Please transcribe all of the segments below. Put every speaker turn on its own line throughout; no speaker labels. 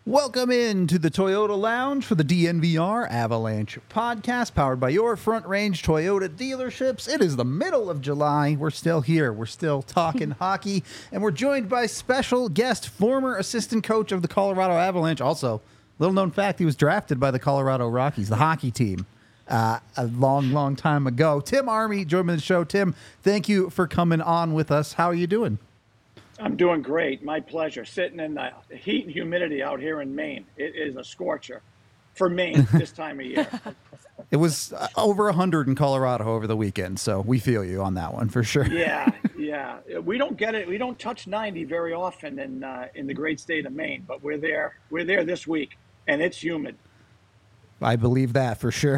Welcome in to the Toyota Lounge for the DNVR Avalanche podcast, powered by your Front Range Toyota dealerships. It is the middle of July. We're still here. We're still talking hockey, and we're joined by special guest, former assistant coach of the Colorado Avalanche. Also, little known fact, he was drafted by the Colorado Rockies, the hockey team, a long time ago. Tim Army joined me on the show. Tim, thank you for coming on with us. How are you doing?
I'm doing great. My pleasure. Sitting in the heat and humidity out here in Maine. It is a scorcher for Maine this time of year.
It was over 100 in Colorado over the weekend, so we feel you on that one for sure.
Yeah. We don't get it. We don't touch 90 very often in the great state of Maine, but we're there. We're there this week, and it's humid.
I believe that for sure.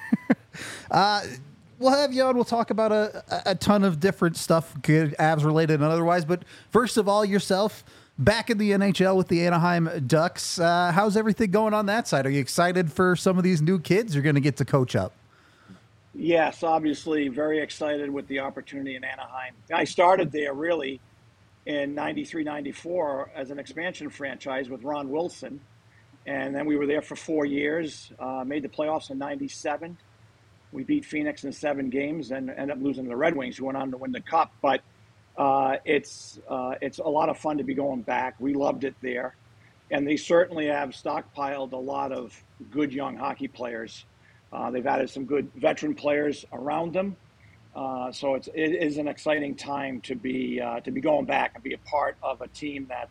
We'll have you on. We'll talk about a ton of different stuff, good Avs related and otherwise. But first of all, yourself back in the NHL with the Anaheim Ducks. How's everything going on that side? Are you excited for some of these new kids you're going to get to coach up?
Yes, obviously very excited with the opportunity in Anaheim. I started there really in 93, 94 as an expansion franchise with Ron Wilson. And then we were there for 4 years, made the playoffs in 97. We beat Phoenix in 7 games and ended up losing to the Red Wings, who went on to win the Cup. But it's a lot of fun to be going back. We loved it there. And they certainly have stockpiled a lot of good young hockey players. They've added some good veteran players around them. So it is an exciting time to be going back and be a part of a team that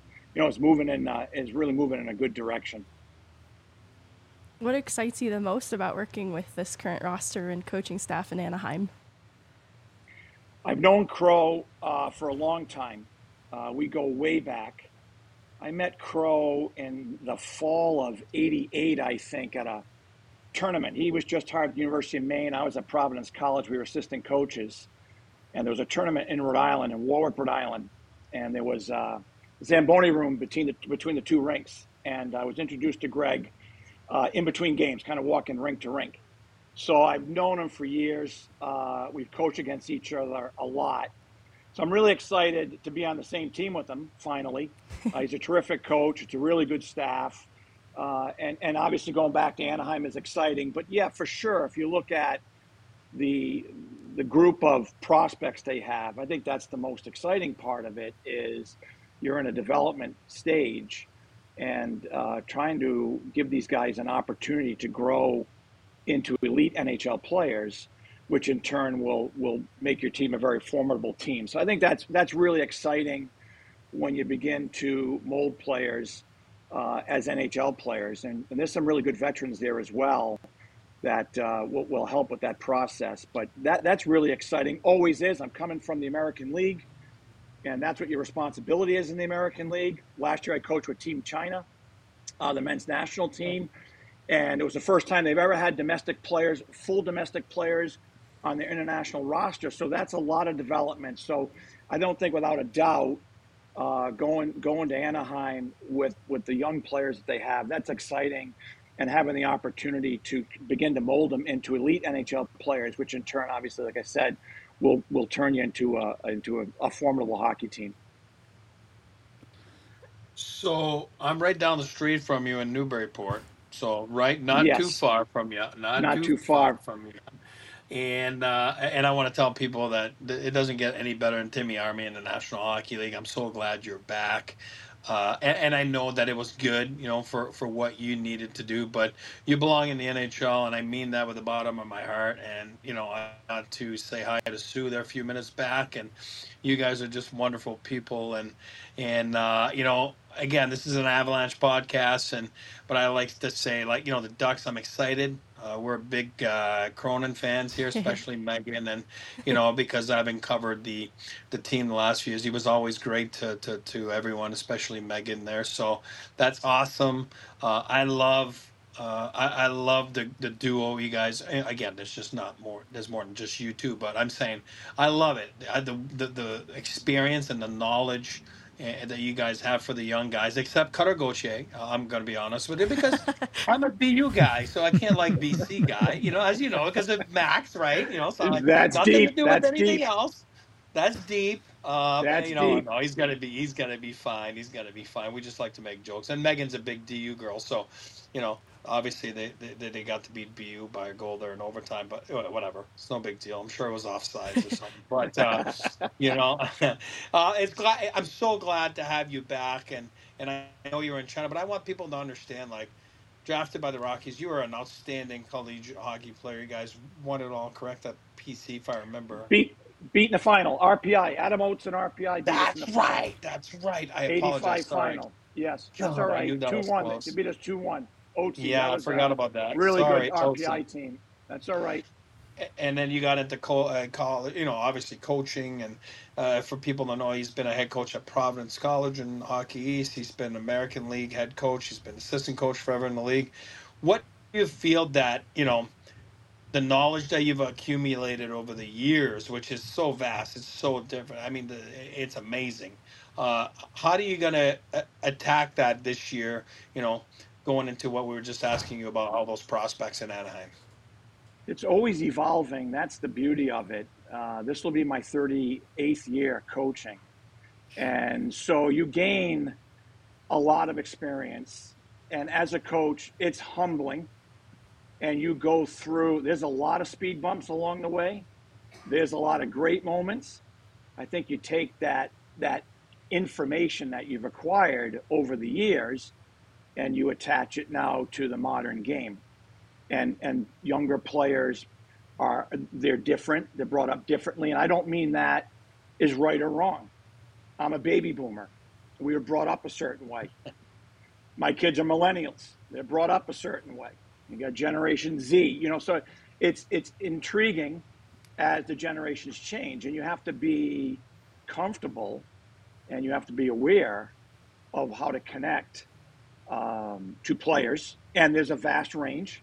is really moving in a good direction.
What excites you the most about working with this current roster and coaching staff in Anaheim?
I've known Crow for a long time. We go way back. I met Crow in the fall of '88, I think, at a tournament. He was just hired at the University of Maine. I was at Providence College. We were assistant coaches. And there was a tournament in Rhode Island, in Warwick, Rhode Island. And there was a Zamboni room between the two rinks. And I was introduced to Greg in between games, kind of walking rink to rink. So I've known him for years. We've coached against each other a lot. So I'm really excited to be on the same team with him, finally. He's a terrific coach. It's a really good staff. And obviously going back to Anaheim is exciting. But yeah, for sure, if you look at the group of prospects they have, I think that's the most exciting part of it is you're in a development stage and trying to give these guys an opportunity to grow into elite NHL players, which in turn will make your team a very formidable team. So I think that's really exciting when you begin to mold players as NHL players. And there's some really good veterans there as well that will help with that process. But that's really exciting. Always is. I'm coming from the American League. And that's what your responsibility is in the American League. Last year I coached with Team China, the men's national team. And it was the first time they've ever had full domestic players on their international roster. So that's a lot of development. So I don't think without a doubt going to Anaheim with the young players that they have, that's exciting. And having the opportunity to begin to mold them into elite NHL players, which in turn, obviously, like I said, will turn you into a formidable hockey team.
So I'm right down the street from you in Newburyport. So not
Yes.
too far from you, not too far from you. And I want to tell people that it doesn't get any better than Timmy Army in the National Hockey League. I'm so glad you're back. And I know that it was good, for what you needed to do, but you belong in the NHL, and I mean that with the bottom of my heart. And, I want to say hi to Sue there a few minutes back, and you guys are just wonderful people. And again, this is an Avalanche podcast, but I like to say, the Ducks, I'm excited. We're big Cronin fans here, especially Megan, and because I've covered the team the last few years, he was always great to everyone, especially Megan there. So that's awesome. I love the duo, you guys. Again, there's more than just you two, but I'm saying I love it. The experience and the knowledge that you guys have for the young guys, except Cutter Gauthier. I'm going to be honest with you because I'm a BU guy, so I can't like BC guy, as you know, because of Max, right? So
That's
nothing
deep.
to do
That's
with anything
deep.
else. That's deep.
That's
You know,
deep.
no, he's gonna be fine. He's gonna be fine. We just like to make jokes. And Megan's a big DU girl, so you know, obviously they got to beat BU by a goal there in overtime, but whatever. It's no big deal. I'm sure it was offsides or something. But you know, it's glad. I'm so glad to have you back, and I know you were in China, but I want people to understand, like. Drafted by the Rockies, you were an outstanding collegiate hockey player. You guys won it all, correct? At PC, if I remember.
Beat in the final. RPI. Adam Oates and RPI beat us in the
That's
final.
right. That's right. I apologize.
85
Sorry.
final. Yes, that's all
God, I
right.
knew that was
2-1. They
close.
beat us 2-1. OT. That
Yeah, I
was a
forgot about that.
really good
Sorry,
RPI
Tosi.
team. That's all right.
And then you got into college, you know, obviously coaching. And for people to know, he's been a head coach at Providence College in Hockey East. He's been American League head coach. He's been assistant coach forever in the league. What do you feel that, you know, the knowledge that you've accumulated over the years, which is so vast, it's so different. I mean, it's amazing. How are you going to attack that this year? You know, going into what we were just asking you about all those prospects in Anaheim.
It's always evolving. That's the beauty of it. This will be my 38th year coaching. And so you gain a lot of experience. And as a coach, it's humbling. And you go through, there's a lot of speed bumps along the way. There's a lot of great moments. I think you take that information that you've acquired over the years and you attach it now to the modern game. And younger players they're different. They're brought up differently. And I don't mean that is right or wrong. I'm a baby boomer. We were brought up a certain way. My kids are millennials. They're brought up a certain way. You got Generation Z, you know, so it's intriguing as the generations change, and you have to be comfortable and you have to be aware of how to connect to players. And there's a vast range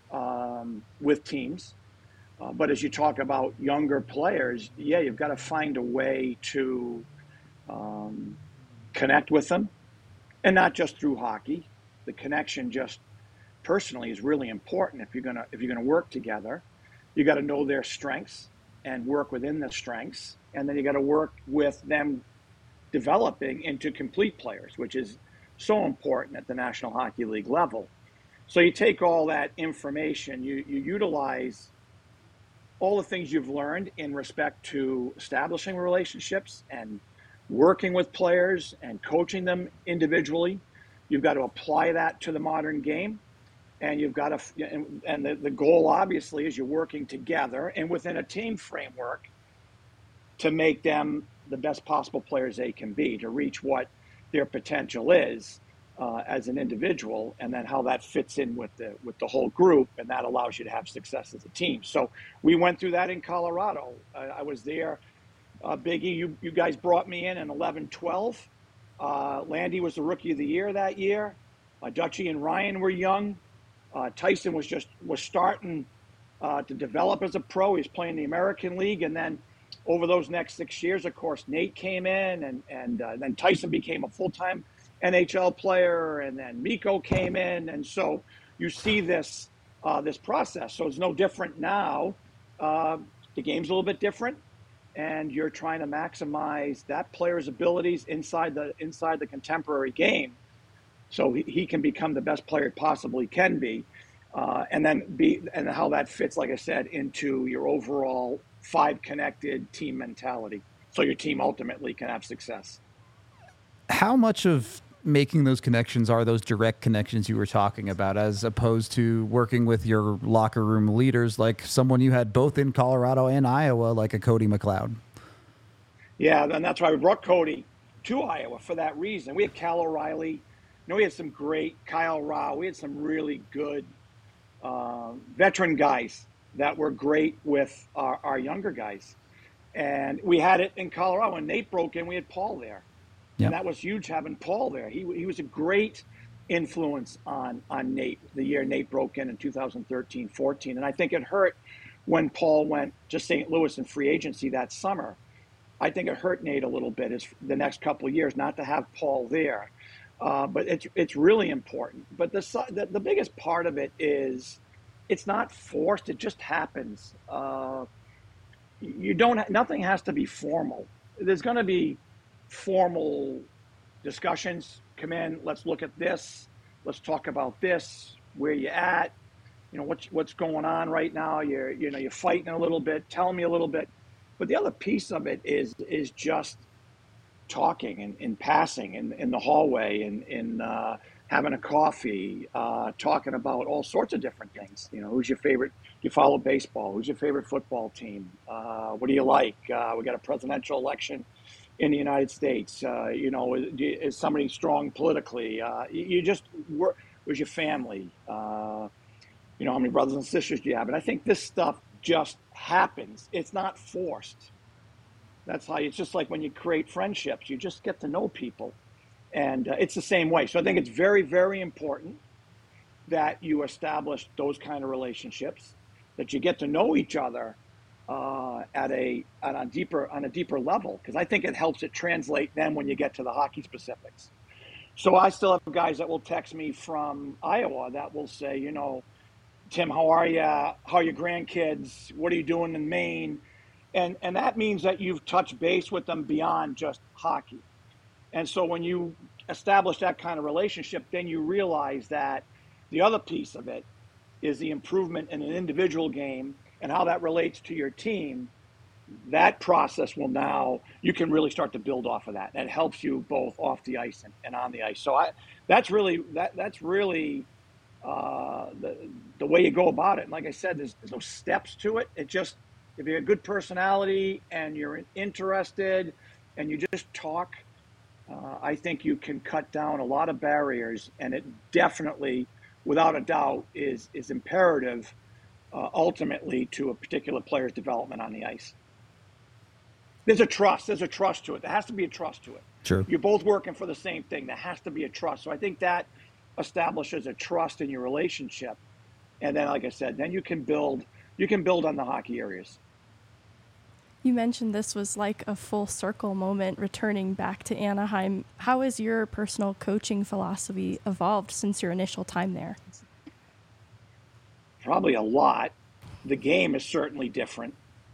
with teams. But as you talk about younger players, yeah, you've got to find a way to connect with them, and not just through hockey. The connection just personally is really important if you're gonna work together. You got to know their strengths and work within the strengths, and then you got to work with them developing into complete players, which is so important at the National Hockey League level. So you take all that information, you utilize all the things you've learned in respect to establishing relationships and working with players and coaching them individually. You've got to apply that to the modern game. And you've got to, and the goal obviously is you're working together and within a team framework to make them the best possible players they can be, to reach what their potential is as an individual, and then how that fits in with the whole group, and that allows you to have success as a team. So we went through that in Colorado. I was there. Biggie, you guys brought me in 11-12. Landy was the rookie of the year that year. Dutchie and Ryan were young. Tyson was starting to develop as a pro. He was playing the American League, and then over those next 6 years, of course, Nate came in, and then Tyson became a full-time NHL player, and then Mikko came in, and so you see this process. So it's no different now. The game's a little bit different, and you're trying to maximize that player's abilities inside the contemporary game, so he can become the best player possibly can be, and how that fits, like I said, into your overall 5 connected team mentality, so your team ultimately can have success.
How much of making those connections are those direct connections you were talking about, as opposed to working with your locker room leaders, like someone you had both in Colorado and Iowa, like a Cody McLeod?
Yeah, and that's why we brought Cody to Iowa for that reason. We had Cal O'Reilly. You know, we had some great Kyle Rao. We had some really good veteran guys that were great with our younger guys. And we had it in Colorado. When Nate broke in, we had Paul there. Yep. And that was huge having Paul there. He was a great influence on Nate the year Nate broke in 2013-14. And I think it hurt when Paul went to St. Louis in free agency that summer. I think it hurt Nate a little bit the next couple of years not to have Paul there. But it's really important. But the biggest part of it is it's not forced. It just happens. you don't, nothing has to be formal. There's going to be formal discussions. Come in, let's look at this. Let's talk about this. Where you at? What's going on right now? You're fighting a little bit. Tell me a little bit. But the other piece of it is just talking and passing in the hallway and in having a coffee, talking about all sorts of different things. Who's your favorite? Do you follow baseball? Who's your favorite football team? What do you like? We got a presidential election in the United States. Is somebody strong politically? You just work. Where's your family? How many brothers and sisters do you have? And I think this stuff just happens. It's not forced. That's how it's just like when you create friendships, you just get to know people. And it's the same way. So I think it's very, very important that you establish those kind of relationships, that you get to know each other on a deeper level, because I think it helps it translate then when you get to the hockey specifics. So I still have guys that will text me from Iowa that will say, Tim, how are you? How are your grandkids? What are you doing in Maine? And that means that you've touched base with them beyond just hockey. And so when you establish that kind of relationship, then you realize that the other piece of it is the improvement in an individual game and how that relates to your team. That process you can really start to build off of that. And it helps you both off the ice and on the ice. So that's really the way you go about it. And like I said, there's no steps to it. It just, if you have a good personality and you're interested and you just talk, I think you can cut down a lot of barriers, and it definitely, without a doubt, is imperative ultimately to a particular player's development on the ice. There's a trust to it. There has to be a trust to it.
Sure.
You're both working for the same thing. There has to be a trust. So I think that establishes a trust in your relationship. And then, like I said, then you can build on the hockey areas.
You mentioned this was like a full circle moment returning back to Anaheim. How has your personal coaching philosophy evolved since your initial time there?
Probably a lot. The game is certainly different.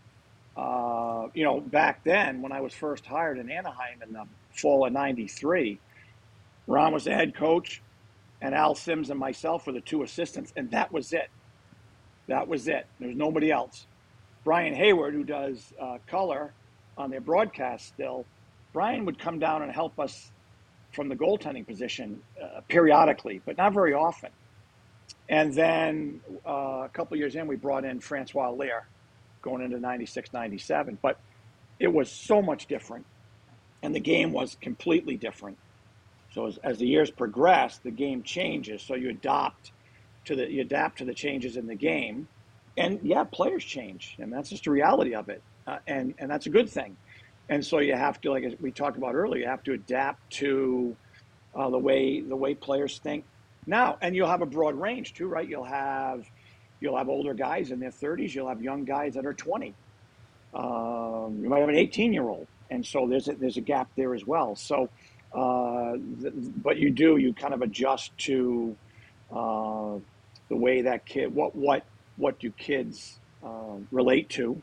Back then when I was first hired in Anaheim in the fall of '93, Ron was the head coach and Al Sims and myself were the two assistants, and that was it. There was nobody else. Brian Hayward, who does color on their broadcast still, Brian would come down and help us from the goaltending position periodically, but not very often. And then a couple of years in, we brought in Francois Lear going into 96, 97. But it was so much different, and the game was completely different. So as the years progress, the game changes. So you adapt to the changes in the game. And yeah, players change, and that's just the reality of it, and that's a good thing. And so you have to, like we talked about earlier, you have to adapt to the way players think now. And you'll have a broad range too, right? You'll have older guys in their 30s. You'll have young guys that are 20. You might have an 18-year-old, and so there's a gap there as well. So, but you kind of adjust to the way that kid what do kids relate to,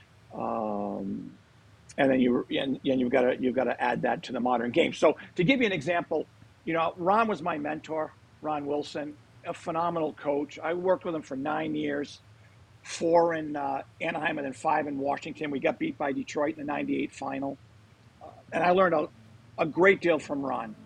and then you've got to add that to the modern game. So to give you an example, Ron was my mentor, Ron Wilson, a phenomenal coach. I worked with him for 9 years, 4 in Anaheim and then 5 in Washington. We got beat by Detroit in the '98 final, and I learned a great deal from Ron.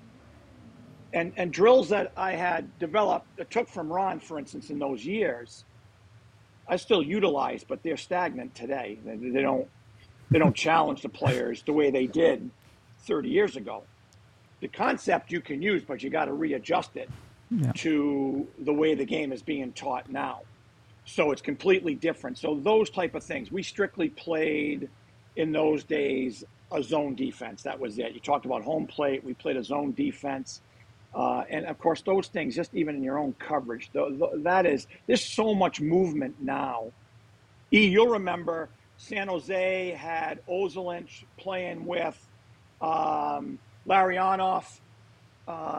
And drills that I had developed, took from Ron, for instance, in those years, I still utilize, but they're stagnant today. They don't challenge the players the way they did 30 years ago. The concept you can use, but you got to readjust it to the way the game is being taught now. So it's completely different. So those type of things, we strictly played in those days a zone defense. That was it. You talked about home plate. We played a zone defense. And of course, those things, just even in your own coverage, there's so much movement now. You'll remember San Jose had Ozolinsh playing with Larionov,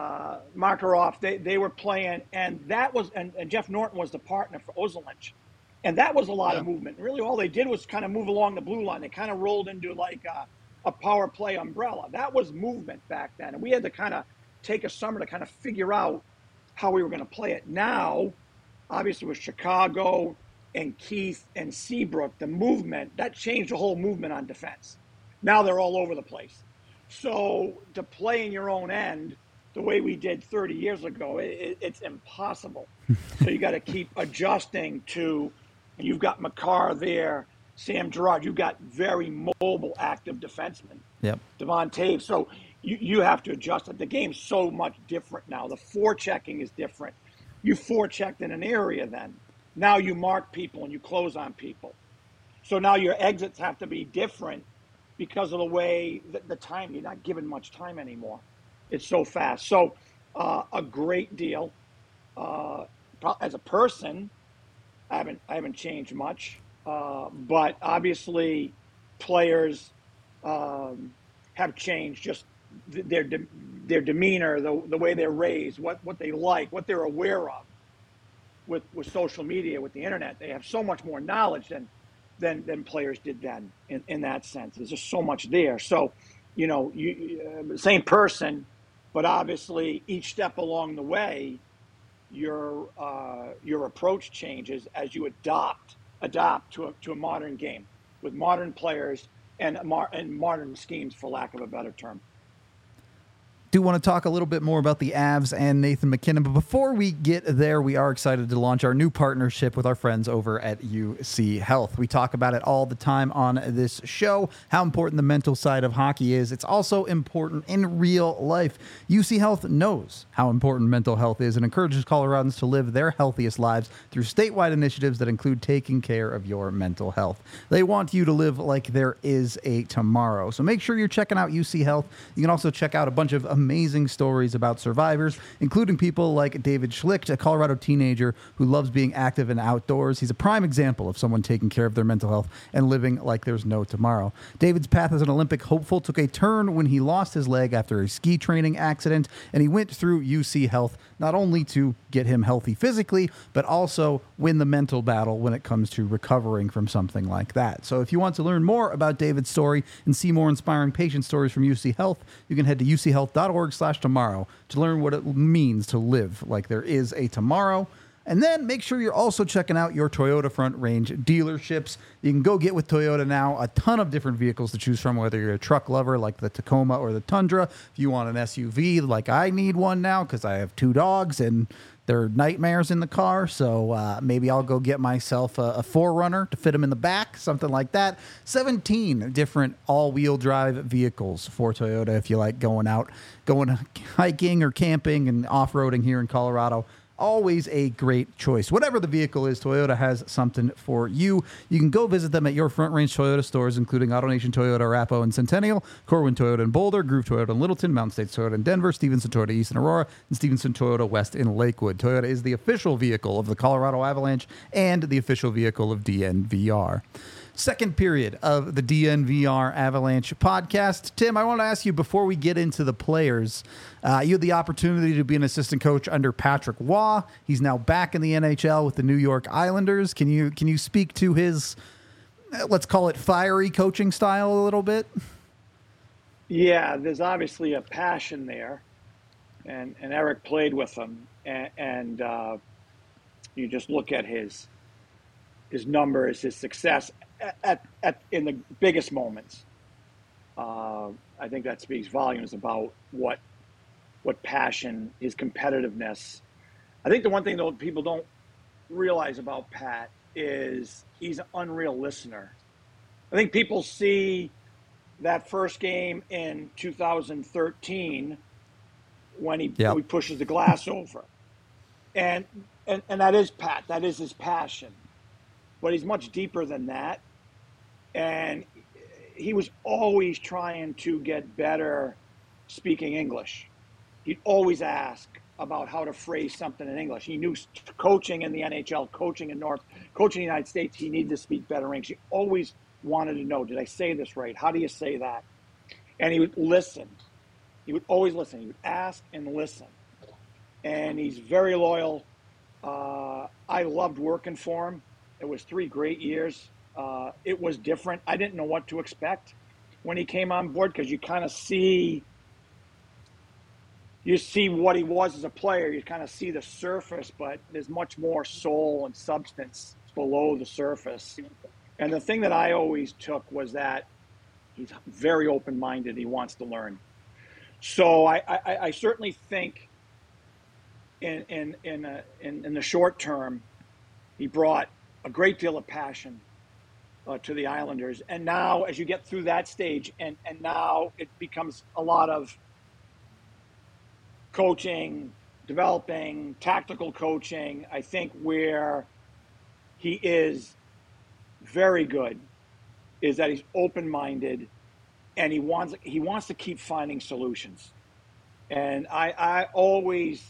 Makarov. They were playing, and that was, and Jeff Norton was the partner for Ozolinsh. And that was a lot of movement. Really, all they did was kind of move along the blue line. They kind of rolled into like a power play umbrella. That was movement back then. And we had to kind of take a summer to kind of figure out how we were going to play it. Now, obviously, with Chicago and Keith and Seabrook, the movement, that changed the whole movement on defense. Now they're all over the place. So to play in your own end the way we did 30 years ago, it's impossible. So you got to keep adjusting to, and you've got Makar there, Sam Girard, you've got very mobile, active defensemen.
Yep.
Devon Taves. So you have to adjust it. The game's so much different now. The forechecking is different. You forechecked in an area then. Now you mark people and you close on people. So now your exits have to be different because of the way the time, you're not given much time anymore. It's so fast. So a great deal. As a person, I haven't changed much. But obviously players have changed, just their demeanor, the way they're raised, what they like, what they're aware of. With social media, with the internet, they have so much more knowledge than players did then in that sense. There's just so much there. So, same person, but obviously each step along the way, your approach changes as you adapt to a modern game with modern players and modern schemes, for lack of a better term.
Do want to talk a little bit more about the Avs and Nathan MacKinnon, but before we get there, we are excited to launch our new partnership with our friends over at UC Health. We talk about it all the time on this show, how important the mental side of hockey is. It's also important in real life. UC Health knows how important mental health is and encourages Coloradans to live their healthiest lives through statewide initiatives that include taking care of your mental health. They want you to live like there is a tomorrow. So make sure you're checking out UC Health. You can also check out a bunch of amazing stories about survivors, including people like David Schlicht, a Colorado teenager who loves being active and outdoors. He's a prime example of someone taking care of their mental health and living like there's no tomorrow. David's path as an Olympic hopeful took a turn when he lost his leg after a ski training accident, and he went through UC Health not only to get him healthy physically, but also win the mental battle when it comes to recovering from something like that. So if you want to learn more about David's story and see more inspiring patient stories from UC Health, you can head to uchealth.org/tomorrow to learn what it means to live like there is a tomorrow. And then make sure you're also checking out your Toyota Front Range dealerships. You can go get with Toyota now a ton of different vehicles to choose from, whether you're a truck lover like the Tacoma or the Tundra. If you want an SUV like I need one now because I have 2 dogs and they're nightmares in the car. So maybe I'll go get myself a 4Runner to fit them in the back, something like that. 17 different all-wheel drive vehicles for Toyota if you like going hiking or camping and off-roading here in Colorado. Always a great choice. Whatever the vehicle is, Toyota has something for you. You can go visit them at your Front Range Toyota stores, including AutoNation Toyota, Arapahoe and Centennial, Corwin Toyota in Boulder, Groove Toyota in Littleton, Mountain States Toyota in Denver, Stevenson Toyota East in Aurora, and Stevenson Toyota West in Lakewood. Toyota is the official vehicle of the Colorado Avalanche and the official vehicle of DNVR. Second period of the DNVR Avalanche podcast. Tim, I want to ask you, before we get into the players, you had the opportunity to be an assistant coach under Patrick Waugh. He's now back in the NHL with the New York Islanders. Can you speak to his, let's call it, fiery coaching style a little bit?
Yeah, there's obviously a passion there, and Eric played with him, and you just look at his numbers, his success in the biggest moments. I think that speaks volumes about what passion, his competitiveness. I think the one thing though people don't realize about Pat is he's an unreal listener. I think people see that first game in 2013 when he pushes the glass over, and that is Pat. That is his passion, but he's much deeper than that. And he was always trying to get better speaking English. He'd always ask about how to phrase something in English. He knew coaching in the NHL, coaching in the United States, he needed to speak better English. He always wanted to know, did I say this right? How do you say that? And he would listen. He would always listen. He would ask and listen. And he's very loyal. I loved working for him. It was 3 great years. It was different. I didn't know what to expect when he came on board because you kind of see what he was as a player. You kind of see the surface, but there's much more soul and substance below the surface. And the thing that I always took was that he's very open-minded. He wants to learn. So I certainly think in the short term, he brought a great deal of passion to the Islanders. And now, as you get through that stage, and now it becomes a lot of coaching, developing, tactical coaching. I think where he is very good is that he's open-minded and he wants to keep finding solutions. And I always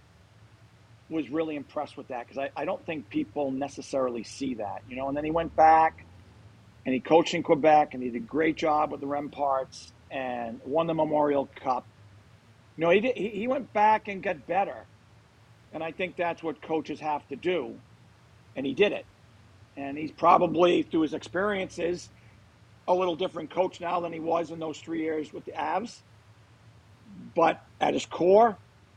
was really impressed with that because I don't think people necessarily see that, you know. And then he went back and he coached in Quebec and he did a great job with the Remparts and won the Memorial Cup. You know, he went back and got better. And I think that's what coaches have to do. And he did it. And he's probably, through his experiences, a little different coach now than he was in those 3 years with the Avs. But at his core,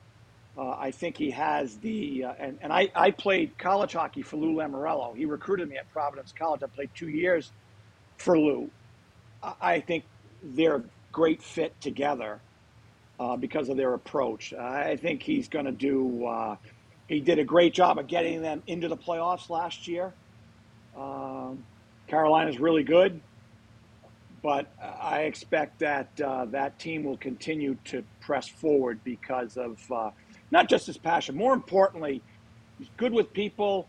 I think he has the and I played college hockey for Lou Lamoriello. He recruited me at Providence College. I played 2 years for Lou. I think they're a great fit together because of their approach. I think he's going to do he did a great job of getting them into the playoffs last year. Carolina's really good, but I expect that that team will continue to press forward because of not just his passion. More importantly, he's good with people.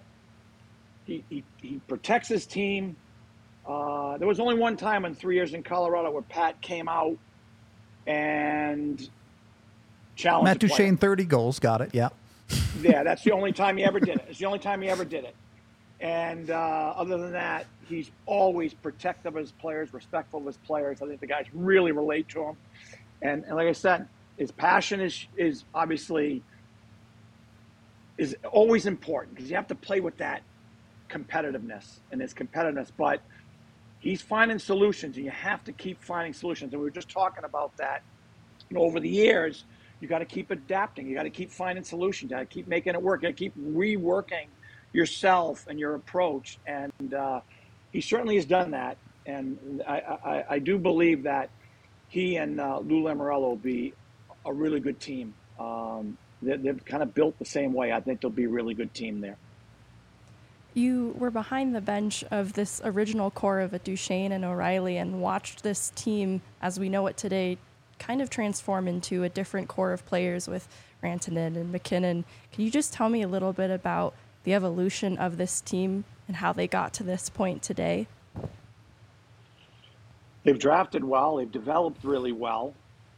He protects his team. There was only one time in 3 years in Colorado where Pat came out and challenged
Matt Duchene, 30 goals. Got it. Yeah.
Yeah, that's the only time he ever did it. It's the only time he ever did it. And other than that, he's always protective of his players, respectful of his players. I think the guys really relate to him. And like I said, his passion is obviously is always important because you have to play with that competitiveness and his competitiveness. But he's finding solutions, and you have to keep finding solutions. And we were just talking about that. You know, over the years, you got to keep adapting. You got to keep finding solutions. You got to keep making it work. You got to keep reworking yourself and your approach. And he certainly has done that. And I do believe that he and Lou Lamoriello will be a really good team. They're kind of built the same way. I think they'll be a really good team there.
You were behind the bench of this original core of Duchene and O'Reilly and watched this team, as we know it today, kind of transform into a different core of players with Rantanen and McKinnon. Can you just tell me a little bit about the evolution of this team and how they got to this point today?
They've drafted well. They've developed really well.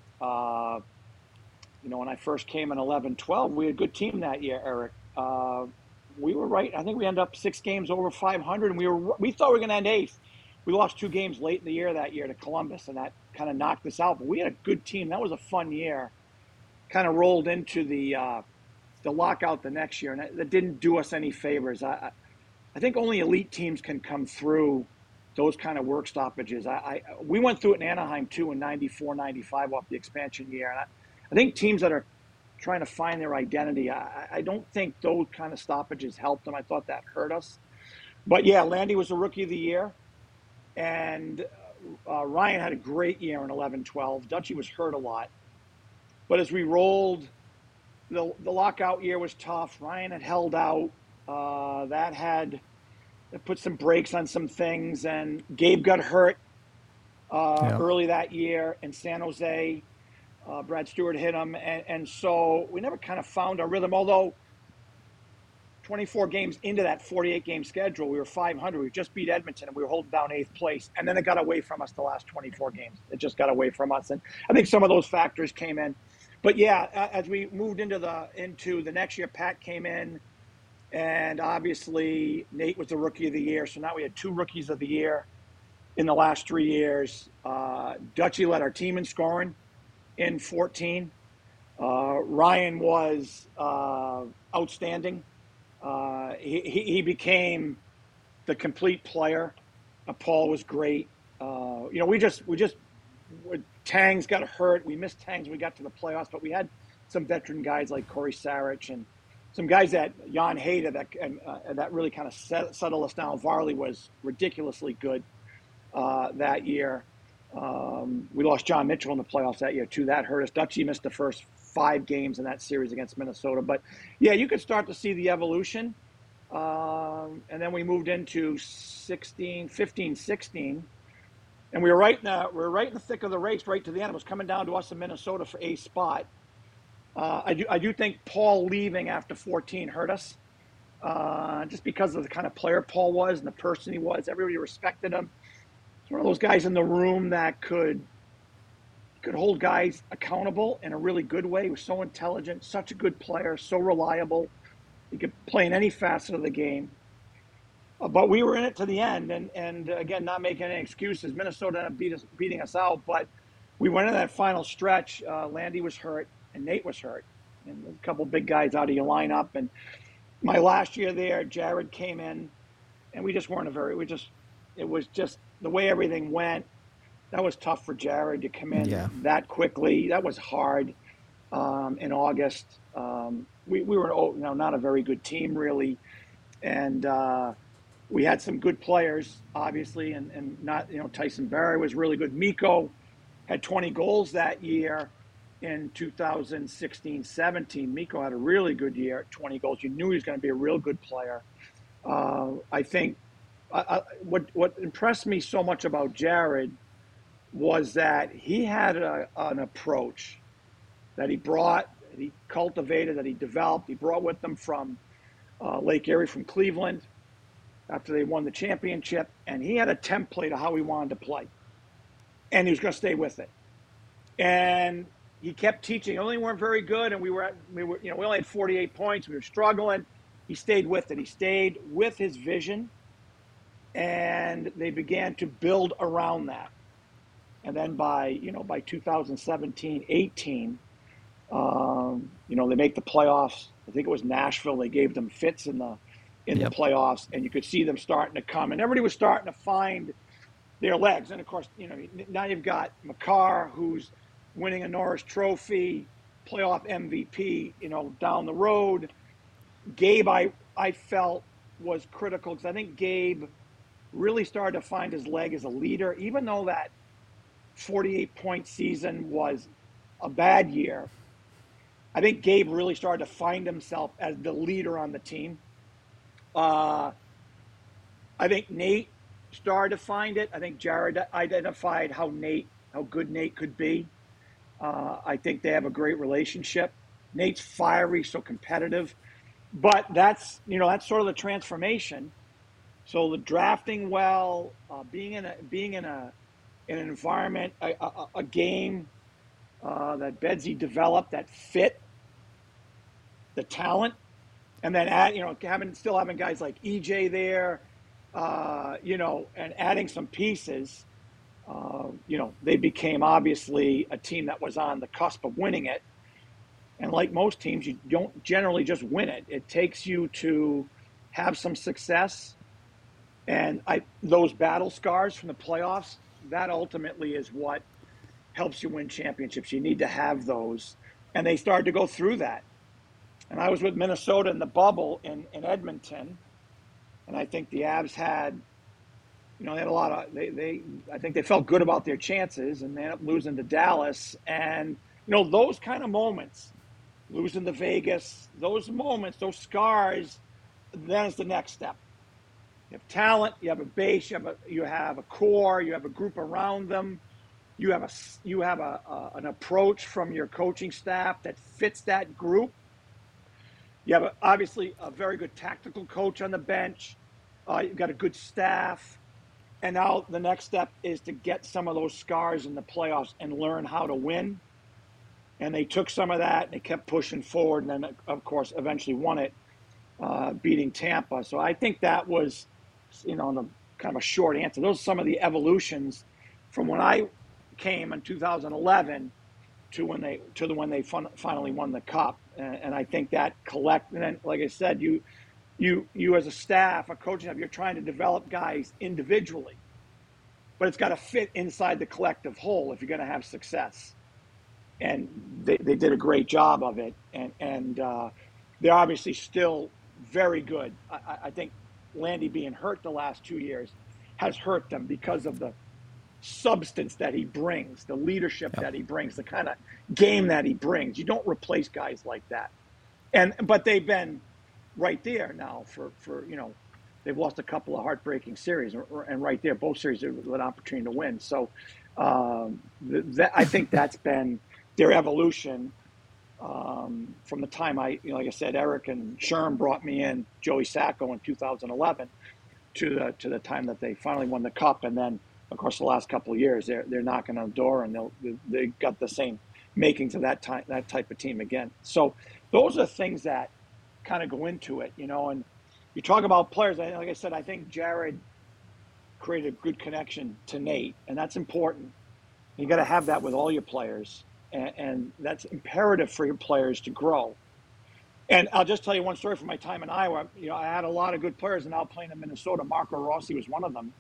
You know, when I first came in 11-12, we had a good team that year, Eric. We were right. I think we ended up 6 games over 500, and we thought we were going to end 8th. We lost 2 games late in the year that year to Columbus, and that kind of knocked us out. But we had a good team. That was a fun year. Kind of rolled into the lockout the next year, and that didn't do us any favors. I think only elite teams can come through those kind of work stoppages. We went through it in Anaheim, too, in 94, 95 off the expansion year. And I think teams that are trying to find their identity, I don't think those kind of stoppages helped them. I thought that hurt us. But, yeah, Landy was the Rookie of the Year. And Ryan had a great year in 11-12. Dutchie was hurt a lot. But as we rolled, the lockout year was tough. Ryan had held out. That put some brakes on some things. And Gabe got hurt early that year in San Jose. Brad Stewart hit him. And so we never kind of found our rhythm. Although 24 games into that 48-game schedule, we were 500. We just beat Edmonton, and we were holding down 8th place. And then it got away from us the last 24 games. It just got away from us. And I think some of those factors came in. But, yeah, as we moved into the next year, Pat came in. And obviously, Nate was the Rookie of the Year. So now we had 2 Rookies of the Year in the last 3 years. Dutchie led our team in scoring in 14. Ryan was outstanding. He became the complete player. Paul was great. We just Tangs got hurt. We missed Tangs when we got to the playoffs, but we had some veteran guys like Corey Sarich and some guys that Jan Hayda that really kind of settled us down. Varley was ridiculously good that year. We lost John Mitchell in the playoffs that year too. That hurt us. Dutchie missed the first 5 games in that series against Minnesota. But yeah, you could start to see the evolution. And then we moved into 15, 16. And we were right in the thick of the race, right to the end. It was coming down to us in Minnesota for a spot. I do think Paul leaving after 14 hurt us, just because of the kind of player Paul was and the person he was. Everybody respected him. He's one of those guys in the room that could hold guys accountable in a really good way. He was so intelligent, such a good player, so reliable. He could play in any facet of the game. But we were in it to the end, and again, not making any excuses. Minnesota ended up beating us out, but we went in that final stretch. Landy was hurt, and Nate was hurt, and a couple big guys out of your lineup. And my last year there, Jared came in, and we just weren't it was just the way everything went. That was tough for Jared to come in that quickly. That was hard in August. We were not a very good team, really, and we had some good players, obviously, and not, Tyson Barrie was really good. Mikko had 20 goals that year in 2016-17. Mikko had a really good year at 20 goals. You knew he was going to be a real good player. I think what impressed me so much about Jared was that he had an approach that he brought, that he cultivated, that he developed. He brought with him from Lake Erie, from Cleveland, after they won the championship, and he had a template of how he wanted to play, and he was going to stay with it. And he kept teaching. Only weren't very good, and we only had 48 points. We were struggling. He stayed with it. He stayed with his vision, and they began to build around that. And then by 2017-18, they make the playoffs. I think it was Nashville. They gave them fits in the playoffs, and you could see them starting to come, and everybody was starting to find their legs. And of course, now you've got Makar, who's winning a Norris Trophy, playoff MVP, down the road. Gabe, I felt was critical, because I think Gabe really started to find his leg as a leader, even though that 48-point season was a bad year. I think Gabe really started to find himself as the leader on the team. I think Nate started to find it. I think Jared identified how good Nate could be. I think they have a great relationship. Nate's fiery, so competitive, but that's sort of the transformation. So the drafting well, being in an environment, a game that Bedsy developed that fit the talent. And then still having guys like EJ there, and adding some pieces, they became obviously a team that was on the cusp of winning it. And like most teams, you don't generally just win it. It takes you to have some success. And those battle scars from the playoffs, that ultimately is what helps you win championships. You need to have those. And they started to go through that. And I was with Minnesota in the bubble in Edmonton, and I think the Avs had, they had a lot of, I think they felt good about their chances, and they ended up losing to Dallas. And, those kind of moments, losing to Vegas, those moments, those scars, then it's the next step. You have talent, you have a base, you have a core, you have a group around them, you have an approach from your coaching staff that fits that group. You have obviously a very good tactical coach on the bench. You've got a good staff. And now the next step is to get some of those scars in the playoffs and learn how to win. And they took some of that and they kept pushing forward. And then, of course, eventually won it, beating Tampa. So I think that was, the kind of a short answer. Those are some of the evolutions from when I came in 2011 to when they finally won the cup. And I think that and then, like I said, you as a staff, a coaching staff, you're trying to develop guys individually, but it's got to fit inside the collective whole if you're going to have success. And they did a great job of it, and they're obviously still very good. I think Landy being hurt the last 2 years has hurt them because of the substance that he brings, the leadership that he brings, the kind of game that he brings. You don't replace guys like that. But they've been right there now for they've lost a couple of heartbreaking series, and right there, both series with an opportunity to win. So I think that's been their evolution from the time like I said, Eric and Sherm brought me in, Joey Sacco in 2011, to the time that they finally won the Cup, and then of course the last couple of years they're knocking on the door, and they got the same makings of that type of team again. So those are things that kind of go into it, and you talk about players. Like I said, I think Jared created a good connection to Nate, and that's important. You got to have that with all your players, and that's imperative for your players to grow. And I'll just tell you one story from my time in Iowa. I had a lot of good players, and now playing in Minnesota, Marco Rossi was one of them.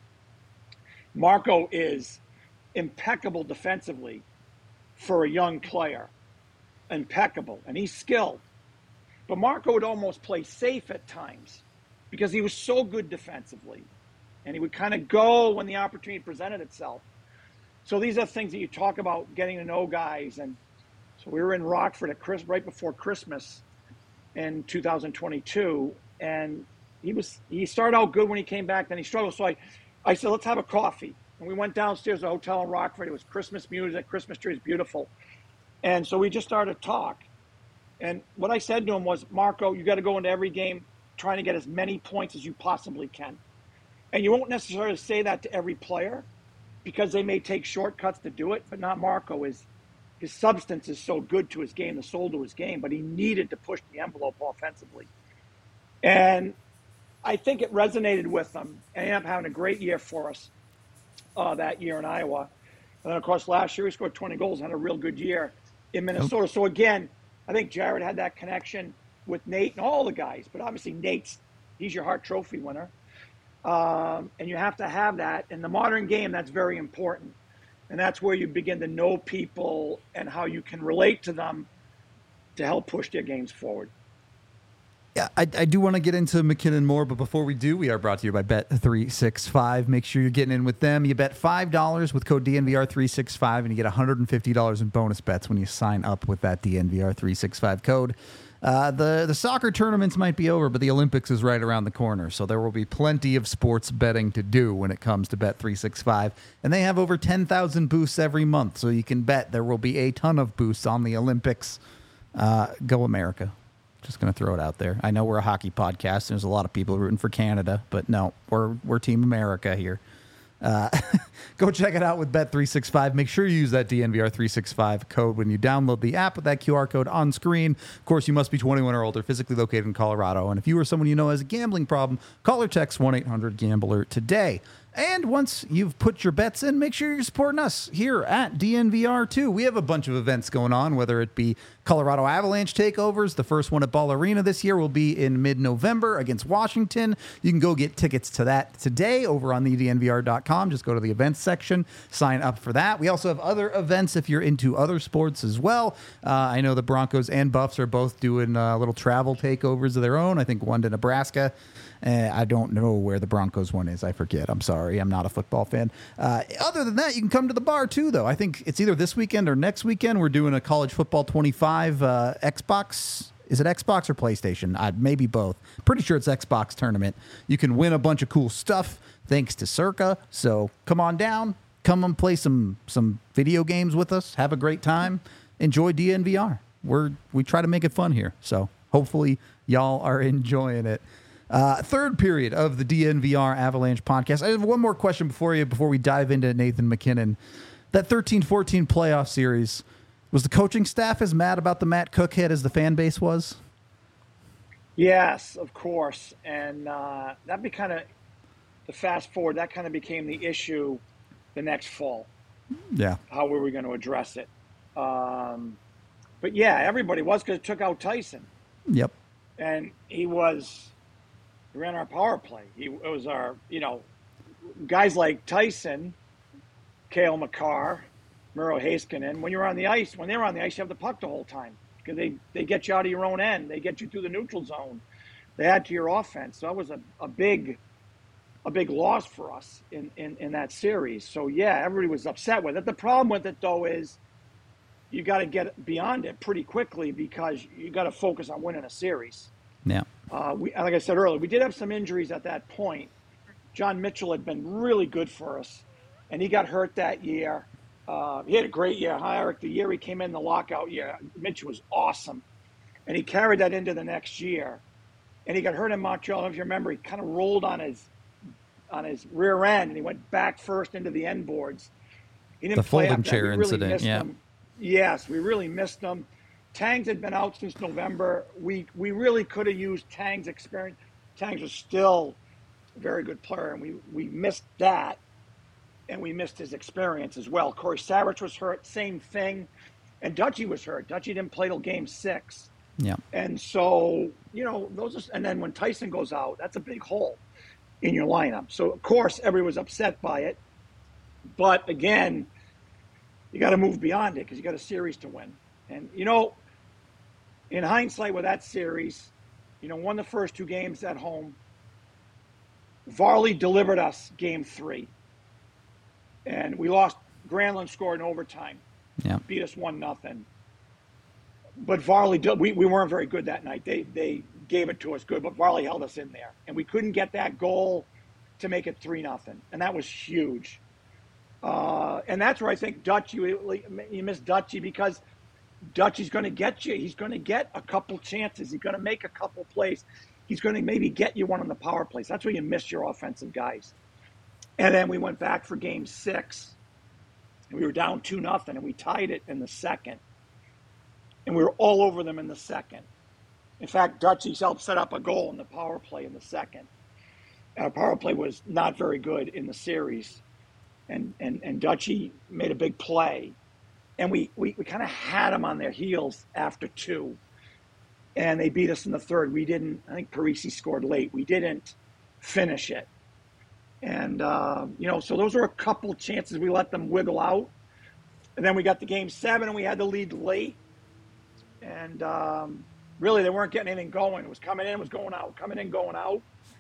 Marco is impeccable defensively for a young player, impeccable, and he's skilled. But Marco would almost play safe at times because he was so good defensively, and he would kind of go when the opportunity presented itself. So these are things that you talk about, getting to know guys. And so we were in Rockford right before Christmas in 2022, and he started out good when he came back, then he struggled. So I said, let's have a coffee. And we went downstairs to a hotel in Rockford. It was Christmas music, Christmas trees, beautiful. And so we just started to talk. And what I said to him was, Marco, you got to go into every game trying to get as many points as you possibly can. And you won't necessarily say that to every player because they may take shortcuts to do it, but not Marco. His substance is so good to his game, the soul to his game, but he needed to push the envelope offensively. And I think it resonated with them, and he ended up having a great year for us that year in Iowa. And then, of course, last year he scored 20 goals, had a real good year in Minnesota. So, again, I think Jared had that connection with Nate and all the guys, but obviously he's your Hart Trophy winner. And you have to have that. In the modern game, that's very important. And that's where you begin to know people and how you can relate to them to help push their games forward.
Yeah, I do want to get into MacKinnon more, but before we do, we are brought to you by Bet365. Make sure you're getting in with them. You bet $5 with code DNVR365, and you get $150 in bonus bets when you sign up with that DNVR365 code. The soccer tournaments might be over, but the Olympics is right around the corner, so there will be plenty of sports betting to do when it comes to Bet365. And they have over 10,000 boosts every month, so you can bet there will be a ton of boosts on the Olympics. Go America. Just going to throw it out there. I know we're a hockey podcast, and there's a lot of people rooting for Canada, but no, we're Team America here. Go check it out with Bet365. Make sure you use that DNVR365 code when you download the app with that QR code on screen. Of course, you must be 21 or older, physically located in Colorado. And if you or someone you know has a gambling problem, call or text 1-800-GAMBLER today. And once you've put your bets in, make sure you're supporting us here at DNVR too. We have a bunch of events going on, whether it be Colorado Avalanche takeovers. The first one at Ball Arena this year will be in mid-November against Washington. You can go get tickets to that today over on thednvr.com. Just go to the events section, sign up for that. We also have other events if you're into other sports as well. I know the Broncos and Buffs are both doing little travel takeovers of their own. I think one to Nebraska. I don't know where the Broncos one is. I forget. I'm sorry. I'm not a football fan. Other than that, you can come to the bar too, though. I think it's either this weekend or next weekend. We're doing a College Football 25 Xbox. Is it Xbox or PlayStation? Maybe both. Pretty sure it's Xbox tournament. You can win a bunch of cool stuff thanks to Circa. So come on down. Come and play some video games with us. Have a great time. Enjoy DNVR. We try to make it fun here. So hopefully y'all are enjoying it. Third period of the DNVR Avalanche podcast. I have one more question before we dive into Nathan MacKinnon. That 13-14 playoff series, was the coaching staff as mad about the Matt Cook hit as the fan base was?
Yes, of course. And that be kind of the fast forward. That kind of became the issue the next fall.
Yeah.
How were we going to address it? But yeah, everybody was, because it took out Tyson.
Yep.
And he was He ran our power play. It was our, guys like Tyson, Cale Makar, Miro Heiskanen. When they were on the ice, you have the puck the whole time because they get you out of your own end. They get you through the neutral zone. They add to your offense. So that was a big loss for us in that series. So yeah, everybody was upset with it. The problem with it though is you got to get beyond it pretty quickly because you got to focus on winning a series.
Yeah.
Like I said earlier, we did have some injuries at that point. John Mitchell had been really good for us, and he got hurt that year. He had a great year. Eric, the year he came in the lockout year, Mitchell was awesome, and he carried that into the next year. And he got hurt in Montreal. If you remember, he kind of rolled on his rear end, and he went back first into the end boards. He didn't play
folding chair incident. Yeah.
Him. Yes, we really missed him. Tangs had been out since November. We really could have used Tangs' experience. Tangs was still a very good player, and we missed that, and we missed his experience as well. Corey Savage was hurt, same thing, and Dutchy was hurt. Dutchy didn't play till Game 6.
Yeah.
And so, and then when Tyson goes out, that's a big hole in your lineup. So, of course, everybody was upset by it. But, again, you got to move beyond it because you got a series to win. And, in hindsight with that series, won the first 2 games at home. Varley delivered us Game 3. And we lost. Granlund scored in overtime.
Yeah.
Beat us 1-0. But Varley, we weren't very good that night. They gave it to us good, but Varley held us in there. And we couldn't get that goal to make it 3-0. And that was huge. And that's where I think Dutchy, you miss Dutchy because Dutchy's going to get you. He's going to get a couple chances. He's going to make a couple plays. He's going to maybe get you one on the power plays. That's where you miss your offensive guys. And then we went back for Game 6. And we were down 2-0, and we tied it in the second. And we were all over them in the second. In fact, Dutchy helped set up a goal in the power play in the second. Our power play was not very good in the series. And Dutchy made a big play. And we kind of had them on their heels after 2. And they beat us in the third. We didn't, I think Parisi scored late. We didn't finish it. And, so those were a couple chances we let them wiggle out. And then we got to Game 7 and we had the lead late. And really, they weren't getting anything going. It was coming in, it was going out, coming in, going out.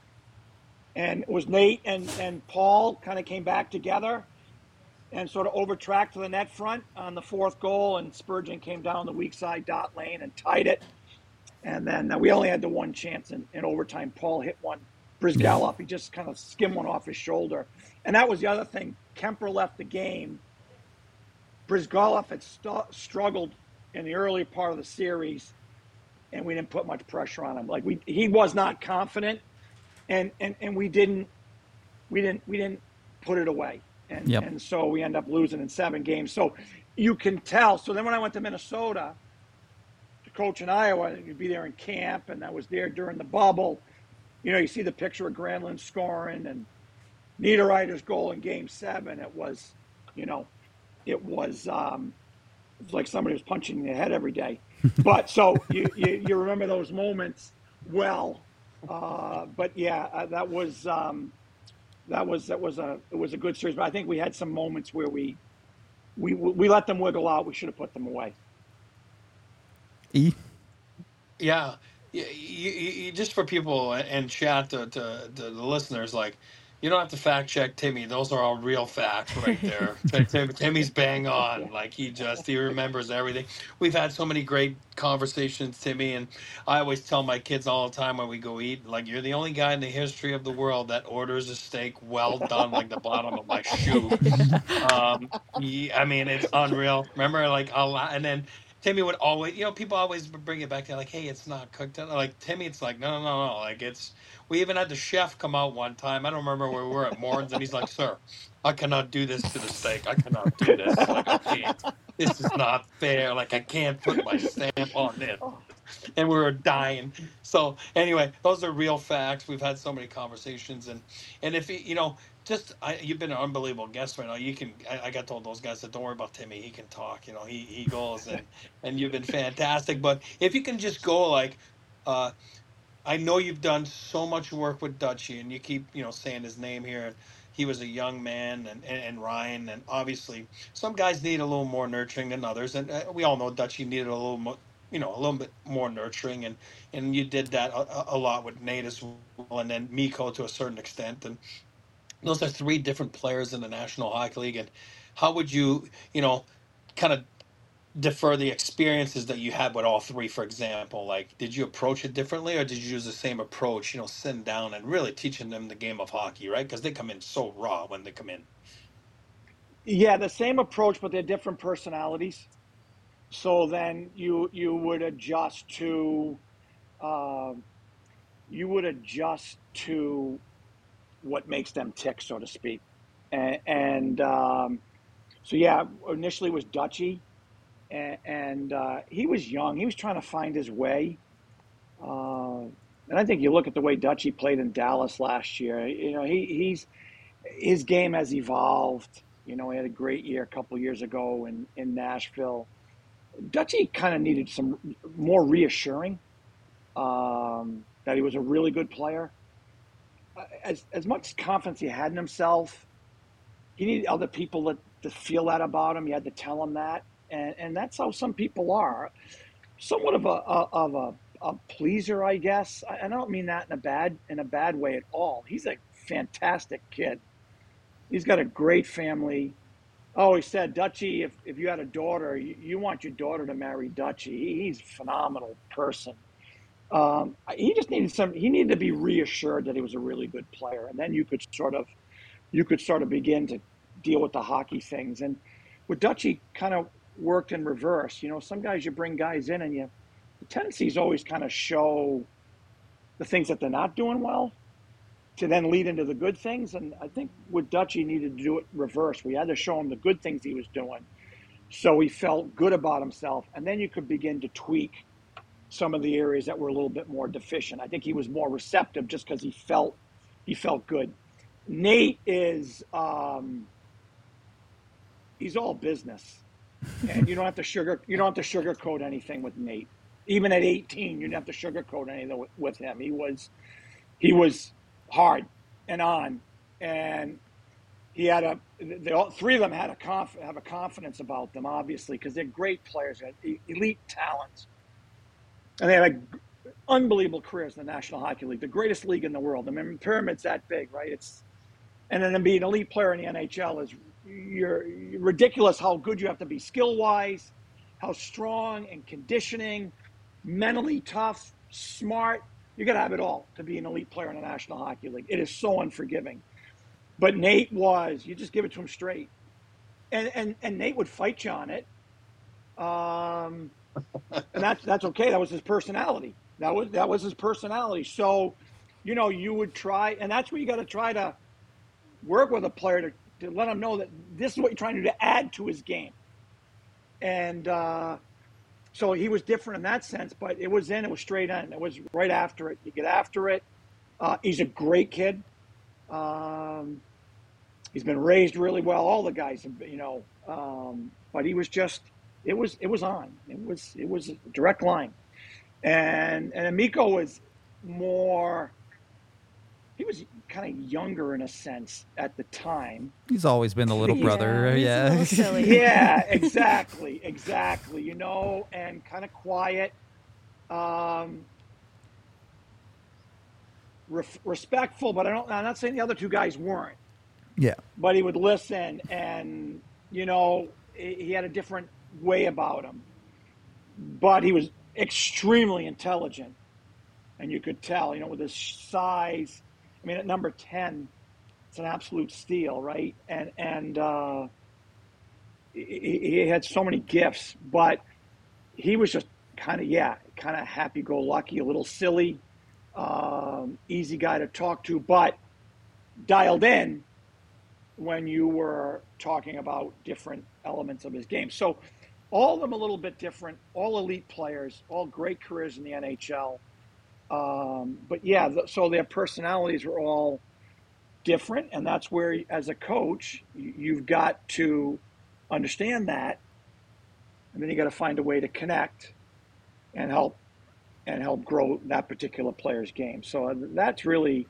And it was Nate and Paul kind of came back together and sort of overtracked to the net front on the 4th goal. And Spurgeon came down the weak side dot lane and tied it. And then we only had the one chance in overtime. Paul hit one. Brizgalov, he just kind of skimmed one off his shoulder. And that was the other thing. Kemper left the game. Brizgalov had struggled in the early part of the series, and we didn't put much pressure on him. He was not confident, and we didn't put it away, and so we end up losing in 7 games. So you can tell. So then when I went to Minnesota to coach in Iowa, you'd be there in camp, and I was there during the bubble. You see the picture of Granlund scoring and Niederreiter's goal in Game 7. It was like somebody was punching in the head every day. But so you remember those moments well. But yeah, it was a good series. But I think we had some moments where we let them wiggle out. We should have put them away.
Yeah. You just for people in chat to the listeners, you don't have to fact check Timmy. Those are all real facts right there. Timmy's bang on. He remembers everything. We've had so many great conversations, Timmy, and I always tell my kids all the time when we go eat, you're the only guy in the history of the world that orders a steak well done, like the bottom of my shoe. It's unreal. Remember, and then Timmy would always, people always bring it back to hey, it's not cooked. Timmy, it's no. We even had the chef come out one time. I don't remember where we were at Morton's, and he's like, "Sir, I cannot do this to the steak. I cannot do this. I can't. This is not fair. I can't put my stamp on it." And we were dying. So anyway, those are real facts. We've had so many conversations, and if you've been an unbelievable guest right now. I got told those guys that don't worry about Timmy. He can talk. He goes and you've been fantastic. But if you can just go I know you've done so much work with Dutchy, and you keep, saying his name here. He was a young man, and Ryan, and obviously some guys need a little more nurturing than others, and we all know Dutchy needed a little more, a little bit more nurturing, and you did that a lot with Nate as well, and then Miko to a certain extent, and those are three different players in the National Hockey League, and how would you, kind of defer the experiences that you had with all three, for example? Like, did you approach it differently, or did you use the same approach, sitting down and really teaching them the game of hockey, right? Because they come in so raw when they come in.
Yeah, the same approach, but they're different personalities. So then you would adjust to uh, what makes them tick, so to speak. And so yeah, initially it was Dutchy, and he was young. He was trying to find his way. And I think you look at the way Dutchy played in Dallas last year. He's his game has evolved. He had a great year a couple of years ago in Nashville. Dutchy kind of needed some more reassuring that he was a really good player. As much confidence he had in himself, he needed other people to feel that about him. You had to tell him that, and that's how some people are. Somewhat of a pleaser, I guess. I don't mean that in a bad way at all. He's a fantastic kid. He's got a great family. Oh, he said, Dutchy, if you had a daughter, you want your daughter to marry Dutchy. He's a phenomenal person. He just he needed to be reassured that he was a really good player. And then you could sort of begin to deal with the hockey things. And with Dutchy kind of worked in reverse. Some guys, you bring guys in and the tendency is always kind of show the things that they're not doing well to then lead into the good things. And I think with Dutchy, he needed to do it reverse. We had to show him the good things he was doing so he felt good about himself. And then you could begin to tweak some of the areas that were a little bit more deficient. I think he was more receptive just because he felt good. Nate is he's all business, and you don't have to sugarcoat anything with Nate. Even at 18, you didn't have to sugarcoat anything with him. He was hard and on, and he had all three of them had have a confidence about them, obviously, because they're great players, elite talents, and they had unbelievable careers in the National Hockey League, the greatest league in the world. I mean, the pyramid's that big, right? And then to be an elite player in the NHL is you're ridiculous how good you have to be skill-wise, how strong and conditioning, mentally tough, smart. You got to have it all to be an elite player in the National Hockey League. It is so unforgiving. But Nate you just give it to him straight. And Nate would fight you on it. And that's okay. That was his personality. That was his personality. So, you would try, and that's where you got to try to work with a player to let him know that this is what you're trying to do to add to his game. And so he was different in that sense, but it was straight in. It was right after it. You get after it. He's a great kid. He's been raised really well. All the guys, but he was just, it was on. It was a direct line. And Mikko was more, he was kind of younger in a sense at the time.
He's always been the little brother.
Yeah.
Yeah.
Silly.
Yeah, exactly. And kind of quiet. Respectful, but I'm not saying the other two guys weren't.
Yeah.
But he would listen, and he had a different way about him. But he was extremely intelligent, and you could tell, with his size. I mean, at number 10, it's an absolute steal, right? And he had so many gifts, but he was just kind of happy-go-lucky, a little silly, easy guy to talk to, but dialed in when you were talking about different elements of his game. So all of them a little bit different, all elite players, all great careers in the NHL. But yeah, so their personalities were all different, and that's where, as a coach, you've got to understand that, and then you got to find a way to connect and help and help grow that particular player's game. So that's really,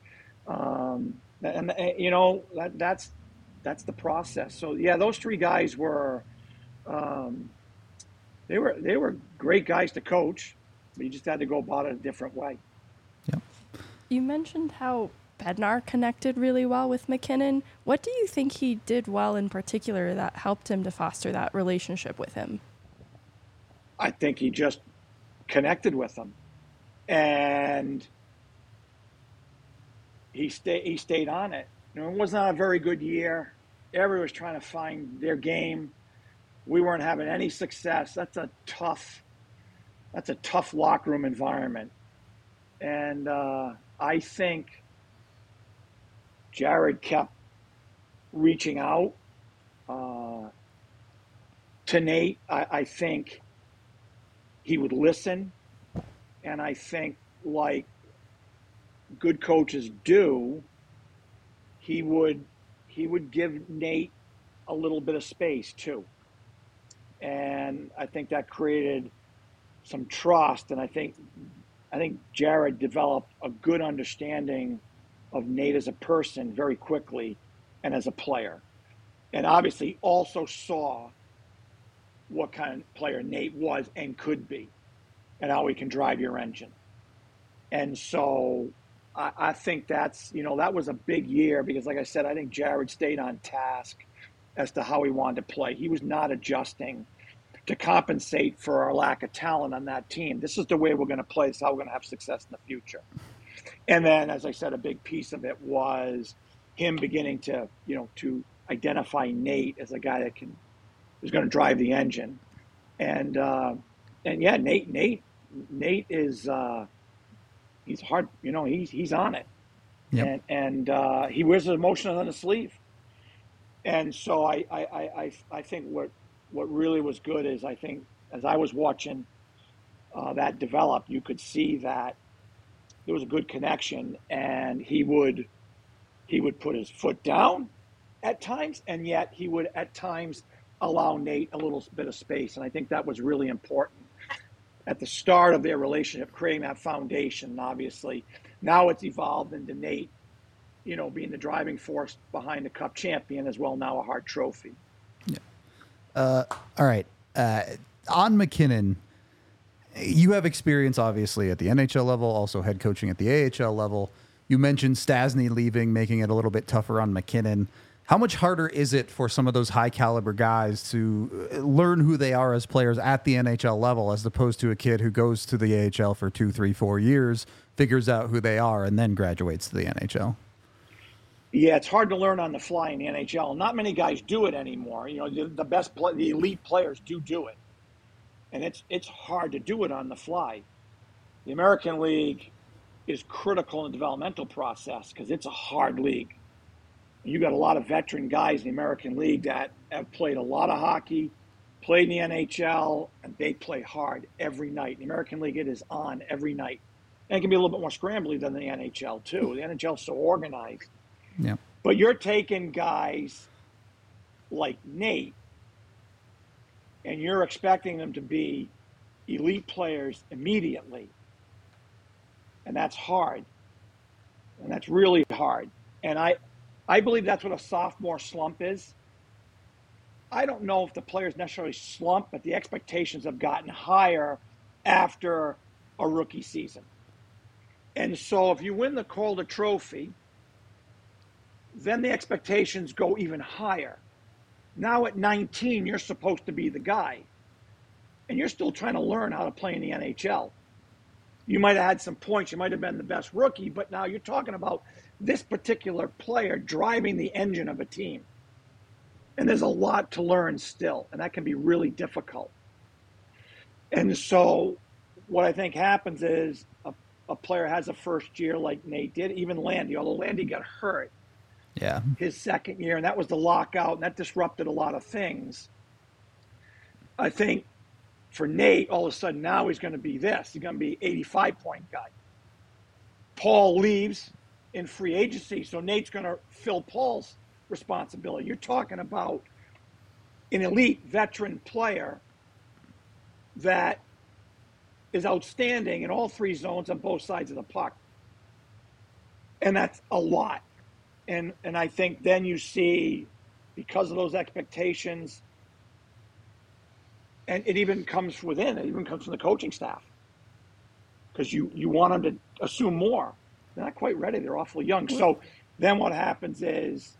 that's the process. So yeah, those three guys were, um, they were great guys to coach, but you just had to go about it a different way.
Yep.
You mentioned how Bednar connected really well with MacKinnon. What do you think he did well in particular that helped him to foster that relationship with him?
I think he just connected with them, and he stayed on it. It was not a very good year. Everyone was trying to find their game. We weren't having any success. That's a tough locker room environment. And I think Jared kept reaching out to Nate. I think he would listen. And I think, like good coaches do, he would give Nate a little bit of space too. And I think that created some trust. And I think Jared developed a good understanding of Nate as a person very quickly and as a player. And obviously also saw what kind of player Nate was and could be and how he can drive your engine. And so I think that's, that was a big year because, like I said, I think Jared stayed on task as to how he wanted to play. He was not adjusting to compensate for our lack of talent on that team. This is the way we're going to play. This is how we're going to have success in the future. And then, as I said, a big piece of it was him beginning to, to identify Nate as a guy that is going to drive the engine. And yeah, Nate is he's hard. He's on it.
Yep.
And he wears his emotions on his sleeve. And so I think what really was good is, I think, as I was watching that develop, you could see that there was a good connection, and he would put his foot down at times, and yet he would at times allow Nate a little bit of space. And I think that was really important at the start of their relationship, creating that foundation. And obviously now it's evolved into Nate, being the driving force behind the Cup champion as well, now a Hart Trophy.
Yeah. All right. On MacKinnon, you have experience, obviously, at the NHL level, also head coaching at the AHL level. You mentioned Stastny leaving, making it a little bit tougher on MacKinnon. How much harder is it for some of those high-caliber guys to learn who they are as players at the NHL level, as opposed to a kid who goes to the AHL for 2, 3, 4 years, figures out who they are, and then graduates to the NHL?
Yeah, it's hard to learn on the fly in the NHL. Not many guys do it anymore. The elite players do it, and it's hard to do it on the fly. The American League is critical in the developmental process because it's a hard league. You got a lot of veteran guys in the American League that have played a lot of hockey, played in the NHL, and they play hard every night. In the American League, it is on every night. And it can be a little bit more scrambly than the NHL, too. The NHL is so organized.
Yeah.
But you're taking guys like Nate, and you're expecting them to be elite players immediately. And that's hard. And that's really hard. And I believe that's what a sophomore slump is. I don't know if the players necessarily slump, but the expectations have gotten higher after a rookie season. And so if you win the Calder Trophy, then the expectations go even higher. Now at 19, you're supposed to be the guy. And you're still trying to learn how to play in the NHL. You might have had some points. You might have been the best rookie, but now you're talking about this particular player driving the engine of a team. And there's a lot to learn still, and that can be really difficult. And so what I think happens is a player has a first year like Nate did, even Landy, although Landy got hurt his second year, and that was the lockout, and that disrupted a lot of things. I think for Nate, all of a sudden now he's going to be this. He's going to be 85-point guy. Paul leaves in free agency, so Nate's going to fill Paul's responsibility. You're talking about an elite veteran player that is outstanding in all three zones on both sides of the puck. And that's a lot. And I think then you see, because of those expectations, and it even comes from the coaching staff. Because you want them to assume more. They're not quite ready. They're awfully young. So then what happens is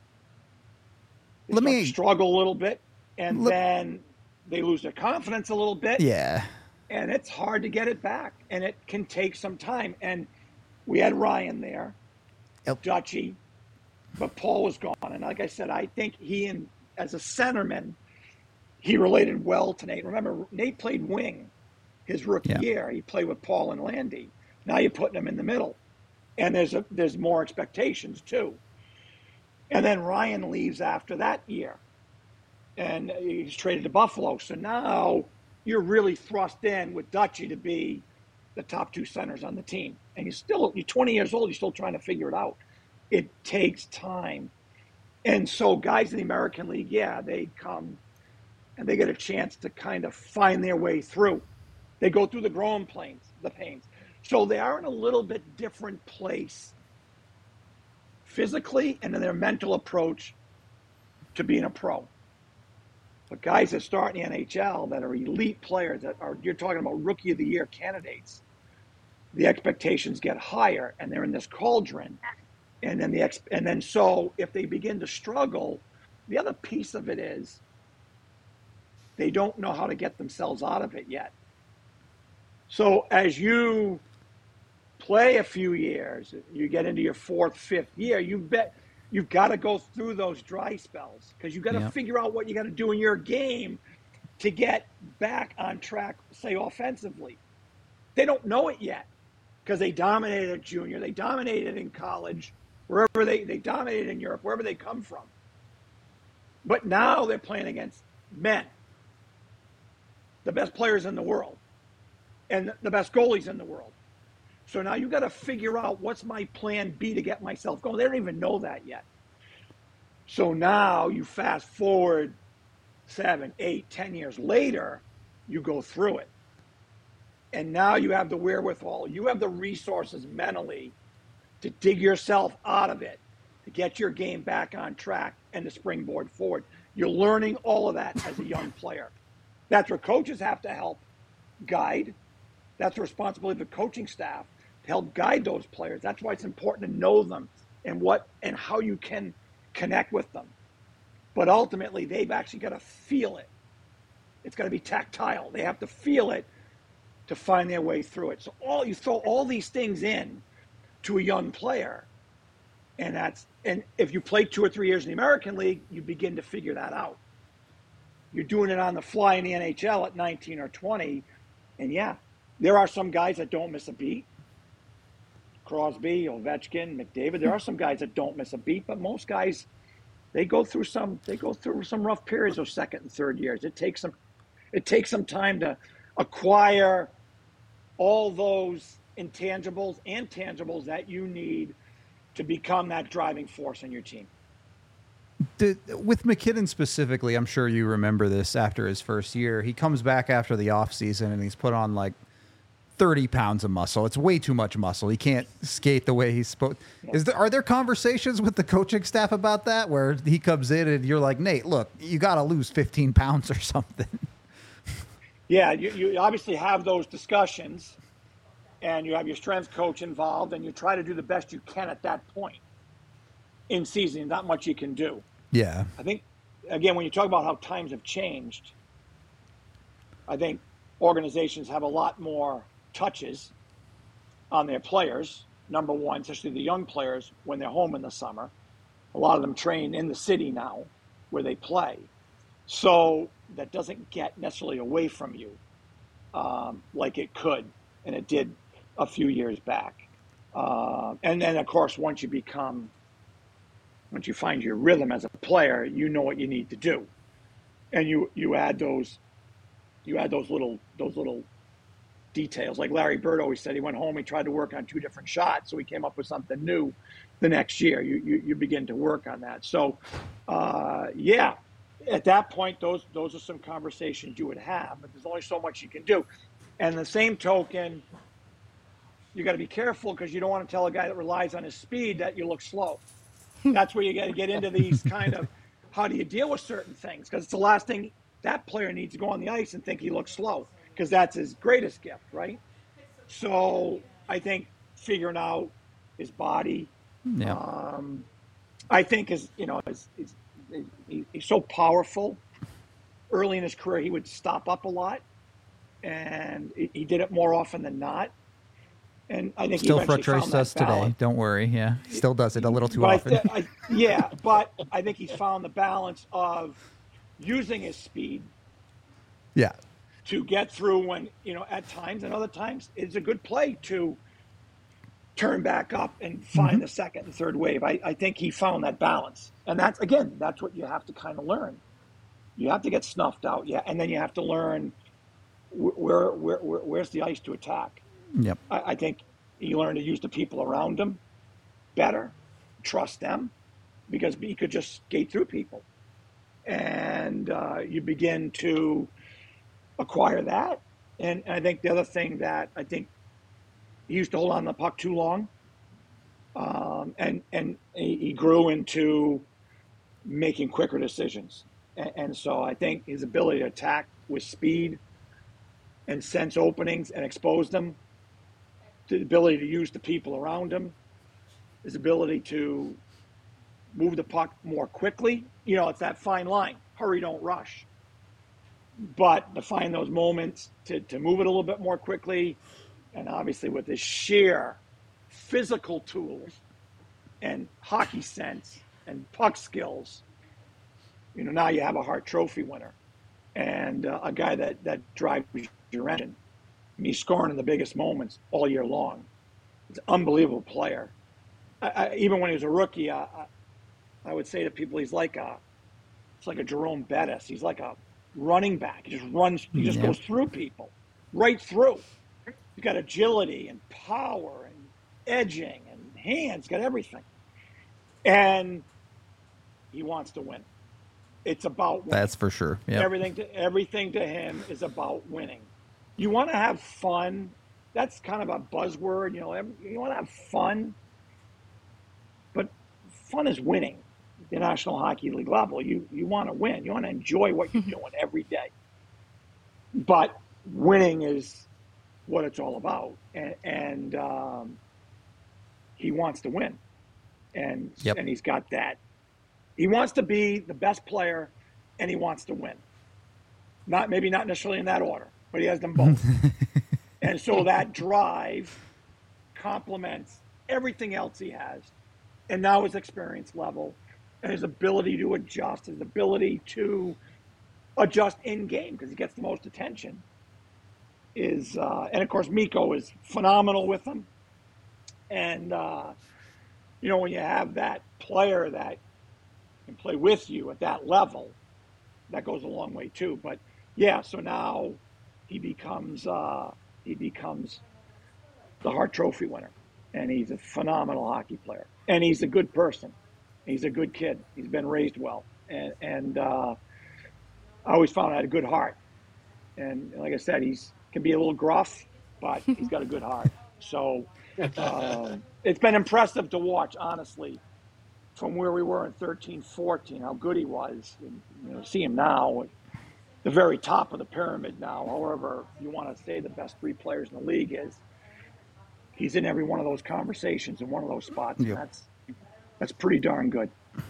they struggle a little bit, and then they lose their confidence a little bit.
Yeah.
And it's hard to get it back, and it can take some time. And we had Ryan there, Dutchy, but Paul was gone. And like I said, I think as a centerman, he related well to Nate. Remember, Nate played wing his rookie year. He played with Paul and Landy. Now you're putting him in the middle. And there's more expectations, too. And then Ryan leaves after that year. And he's traded to Buffalo. So now you're really thrust in with Dutchy to be the top two centers on the team. And you're 20 years old, you're still trying to figure it out. It takes time. And so guys in the American League, they come and they get a chance to kind of find their way through. They go through the growing pains. So they are in a little bit different place physically and in their mental approach to being a pro. But guys that start in the NHL that are elite players, you're talking about rookie of the year candidates, the expectations get higher and they're in this cauldron. And then so if they begin to struggle, the other piece of it is they don't know how to get themselves out of it yet. So as you play a few years, you get into your fourth, fifth year, you've got to go through those dry spells because you've got to figure out what you got to do in your game to get back on track, say, offensively. They don't know it yet because they dominated at junior. They dominated in college, wherever they dominated in Europe, wherever they come from. But now they're playing against men, the best players in the world, and the best goalies in the world. So now you got to figure out what's my plan B to get myself going. They don't even know that yet. So now you fast forward 7, 8, 10 years later, you go through it. And now you have the wherewithal. You have the resources mentally to dig yourself out of it, to get your game back on track and to springboard forward. You're learning all of that as a young player. That's where coaches have to help guide. That's the responsibility of the coaching staff to help guide those players. That's why it's important to know them and how you can connect with them. But ultimately, they've actually got to feel it. It's got to be tactile. They have to feel it to find their way through it. So you throw all these things in to a young player, and if you play 2 or 3 years in the American League, you begin to figure that out. You're doing it on the fly in the NHL at 19 or 20, and there are some guys that don't miss a beat. Crosby, Ovechkin, McDavid. There are some guys that don't miss a beat, but most guys, they go through some rough periods of second and third years. It takes some time to acquire all those intangibles and tangibles that you need to become that driving force in your team.
With MacKinnon specifically, I'm sure you remember this after his first year. He comes back after the offseason and he's put on like 30 pounds of muscle. It's way too much muscle. He can't skate the way he's supposed. Are there conversations with the coaching staff about that where he comes in and you're like, Nate, look, you got to lose 15 pounds or something?
Yeah, you obviously have those discussions and you have your strength coach involved and you try to do the best you can at that point in season. Not much you can do.
Yeah.
I think, again, when you talk about how times have changed, I think organizations have a lot more touches on their players, number one, especially the young players when they're home in the summer. A lot of them train in the city now where they play. So that doesn't get necessarily away from you like it could, and it did a few years back. And then, of course, once you find your rhythm as a player, you know what you need to do. And you add those little details. Like Larry Bird always said, he went home, he tried to work on 2 different shots, so he came up with something new the next year. You begin to work on that. So, at that point, those are some conversations you would have, but there's only so much you can do. And the same token, you got to be careful because you don't want to tell a guy that relies on his speed that you look slow. That's where you got to get into these kind of how do you deal with certain things, because it's the last thing that player needs to go on the ice and think he looks slow, because that's his greatest gift, right? So I think figuring out his body,
Yeah.
I think he's so powerful. Early in his career, he would stop up a lot, and he did it more often than not. And I think
Still
he eventually
frustrates
found
us
that balance.
today. Don't worry. Yeah. Still does it a little too
But
often.
but I think he's found the balance of using his speed
Yeah.
to get through when, at times, and other times it's a good play to turn back up and find the second and third wave. I think he found that balance. And that's what you have to kind of learn. You have to get snuffed out. Yeah. And then you have to learn where's the ice to attack.
Yep.
I think he learned to use the people around him better, trust them, because he could just skate through people. And you begin to acquire that. And I think the other thing that I think he used to hold on to the puck too long, and he grew into making quicker decisions. And so I think his ability to attack with speed and sense openings and expose them, the ability to use the people around him, his ability to move the puck more quickly. It's that fine line, hurry, don't rush. But to find those moments to move it a little bit more quickly, and obviously with his sheer physical tools and hockey sense and puck skills, now you have a Hart Trophy winner and a guy that drives your engine. He's scoring in the biggest moments all year long. He's an unbelievable player. Even when he was a rookie, I would say to people, it's like a Jerome Bettis. He's like a running back. He just runs. He just goes through people, right through. He's got agility and power and edging and hands. Got everything, and he wants to win. It's about winning.
That's for sure. Yep.
Everything to him is about winning. You want to have fun. That's kind of a buzzword. You want to have fun, but fun is winning. The National Hockey League level, you want to win. You want to enjoy what you're doing every day. But winning is what it's all about, and he wants to win, and he's got that. He wants to be the best player, and he wants to win. Maybe not necessarily in that order, but he has them both. And so that drive complements everything else he has, and now his experience level and his ability to adjust, his ability to adjust in game because he gets the most attention is, and of course Mikko is phenomenal with him. And when you have that player that can play with you at that level, that goes a long way too. But so now he becomes the Hart Trophy winner, and he's a phenomenal hockey player, and he's a good person. He's a good kid. He's been raised well, and I always found I had a good heart. And like I said, can be a little gruff, but he's got a good heart. So it's been impressive to watch, honestly, from where we were in 13-14, how good he was. And, see him now at the very top of the pyramid now. However you want to say the best three players in the league is, he's in every one of those conversations in one of those spots.
Yep.
And that's pretty darn good.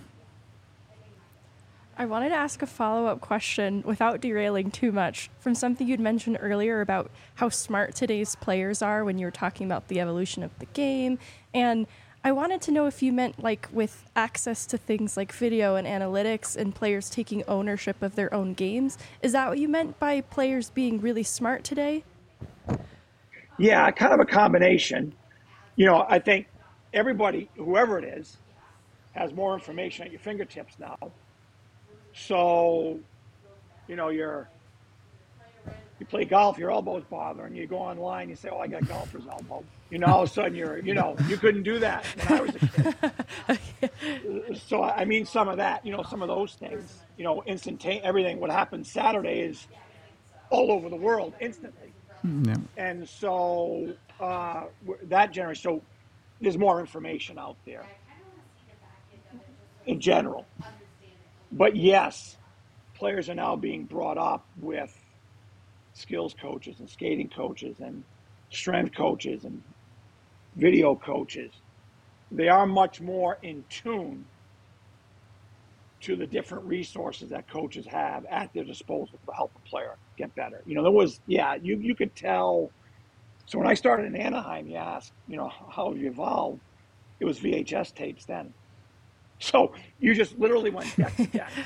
I wanted to ask a follow-up question without derailing too much from something you'd mentioned earlier about how smart today's players are when you were talking about the evolution of the game. And I wanted to know if you meant like with access to things like video and analytics and players taking ownership of their own games. Is that what you meant by players being really smart today?
Yeah, kind of a combination. I think everybody, whoever it is, has more information at your fingertips now. So, you play golf, your elbow's bothering. You go online, you say, "Oh, I got golfer's elbow." All of a sudden you couldn't do that when I was a kid. So I mean, some of that, some of those things, instantaneous. Everything what happened Saturday is all over the world instantly.
Yeah.
And so that generation, so there's more information out there in general. But yes, players are now being brought up with skills coaches and skating coaches and strength coaches and video coaches. They are much more in tune to the different resources that coaches have at their disposal to help a player get better. There was, you could tell. So when I started in Anaheim, you asked, how have you evolved? It was VHS tapes then. So you just literally went deck to deck.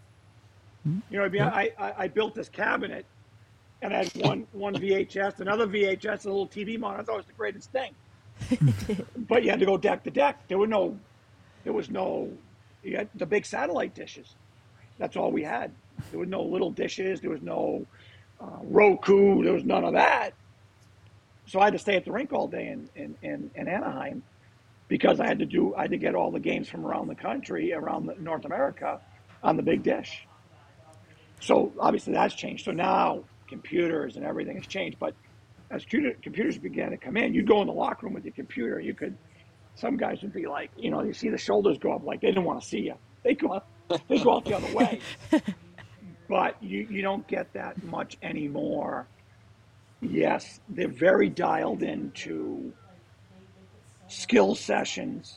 I built this cabinet and I had one VHS, another VHS, a little TV monitor. I thought it was the greatest thing. But you had to go deck to deck. There was no, you had the big satellite dishes. That's all we had. There was no little dishes. There was no Roku. There was none of that. So I had to stay at the rink all day in Anaheim because I had to get all the games from around the country, around North America, on the big dish. So obviously that's changed. So now computers and everything has changed. But as computers began to come in, you'd go in the locker room with your computer. Some guys would be like, you see the shoulders go up like they didn't want to see you. They go out the other way. But you don't get that much anymore. Yes, they're very dialed into skill sessions,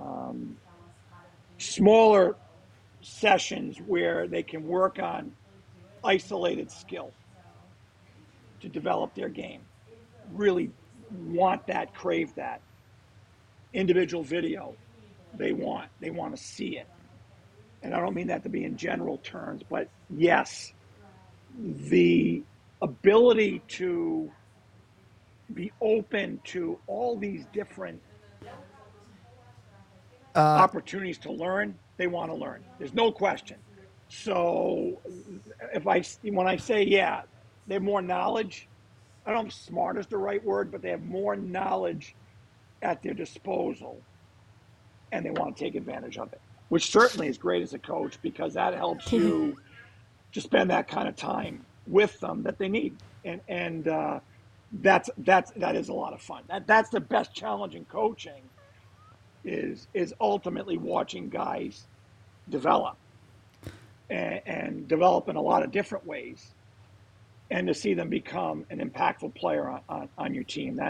smaller sessions where they can work on isolated skill to develop their game. Really want that, crave that. Individual video, they want to see it. And I don't mean that to be in general terms, but yes, the ability to be open to all these different opportunities to learn, they want to learn. There's no question. So when I say, they have more knowledge, I don't know if smart is the right word, but they have more knowledge at their disposal and they want to take advantage of it, which certainly is great as a coach because that helps you to spend that kind of time with them that they need. And that is a lot of fun. That's the best challenge in coaching is ultimately watching guys develop and develop in a lot of different ways and to see them become an impactful player on your team.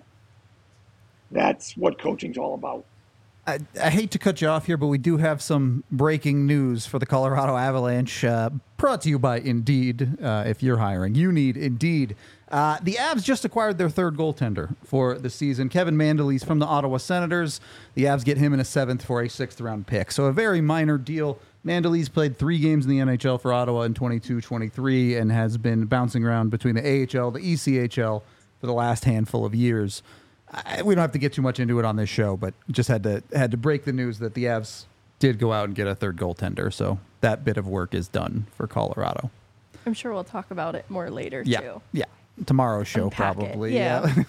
That's what coaching's all about.
I hate to cut you off here, but we do have some breaking news for the Colorado Avalanche, brought to you by Indeed. If you're hiring, you need Indeed. The Avs just acquired their third goaltender for the season, Kevin Mandolese from the Ottawa Senators. The Avs get him in a 7th for a 6th-round pick, so a very minor deal. Mandolese played 3 games in the NHL for Ottawa in 22-23 and has been bouncing around between the AHL, the ECHL for the last handful of years. We don't have to get too much into it on this show, but just had to break the news that the Avs did go out and get a third goaltender. So that bit of work is done for Colorado.
I'm sure we'll talk about it more later,
too. Yeah. Tomorrow's show,
Unpack
probably.
It. Yeah.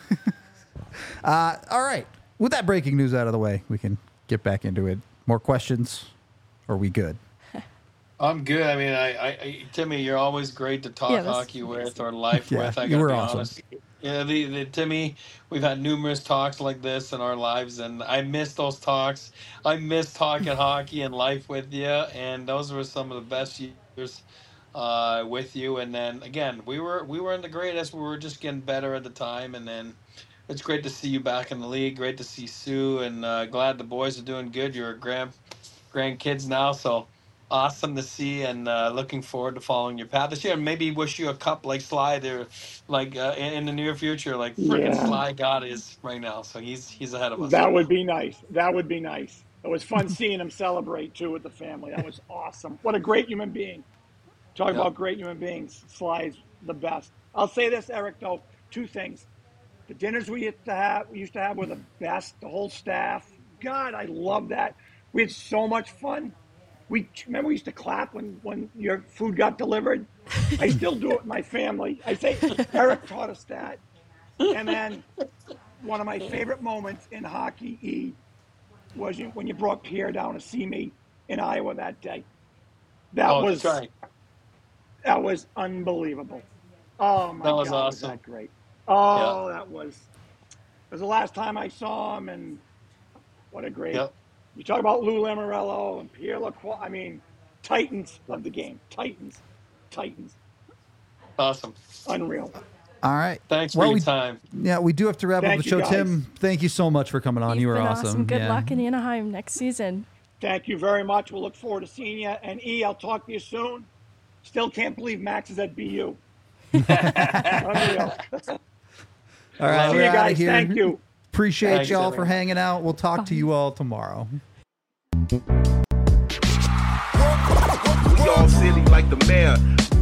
All right. With that breaking news out of the way, we can get back into it. More questions? Or are we good?
I'm good. I mean, I Timmy, you're always great to talk hockey with or life with. I gotta be honest. Yeah, the Timmy, we've had numerous talks like this in our lives, and I miss those talks. I miss talking hockey and life with you, and those were some of the best years with you. And then again, we were in the greatest. We were just getting better at the time, and then it's great to see you back in the league. Great to see Sue, and glad the boys are doing good. You're grandkids now, so. Awesome to see, and looking forward to following your path this year. And maybe wish you a cup like Sly there, like in the near future, like freaking Sly God is right now. So he's ahead of us.
That would be nice. It was fun seeing him celebrate too with the family. That was awesome. What a great human being. Talk about great human beings. Sly's the best. I'll say this, Eric, though, 2 things. The dinners we used to have were the best. The whole staff. God, I love that. We had so much fun. Remember we used to clap when your food got delivered? I still do it with my family. I say Eric taught us that. And then one of my favorite moments in hockey was when you brought Pierre down to see me in Iowa that day. That was unbelievable. Oh my God,
awesome.
was that great. Oh, that was the last time I saw him, and what a great.
Yep.
You talk about Lou Lamoriello and Pierre Lacroix. I mean, titans of the game. Titans.
Awesome.
Unreal.
All right.
Thanks for your time.
Yeah, we do have to wrap up
Thank
the
you,
show.
guys.
Tim, thank you so much for coming on.
You've
You were
been
awesome.
Good
Yeah.
luck in Anaheim next season.
Thank you very much. We'll look forward to seeing you. And E, I'll talk to you soon. Still can't believe Max is at BU. Unreal.
All right,
See
we're
you
out
guys.
of here.
Thank you.
Appreciate
Thanks,
y'all for
everyone.
hanging out. We'll talk to you all tomorrow.
We all silly like the mayor.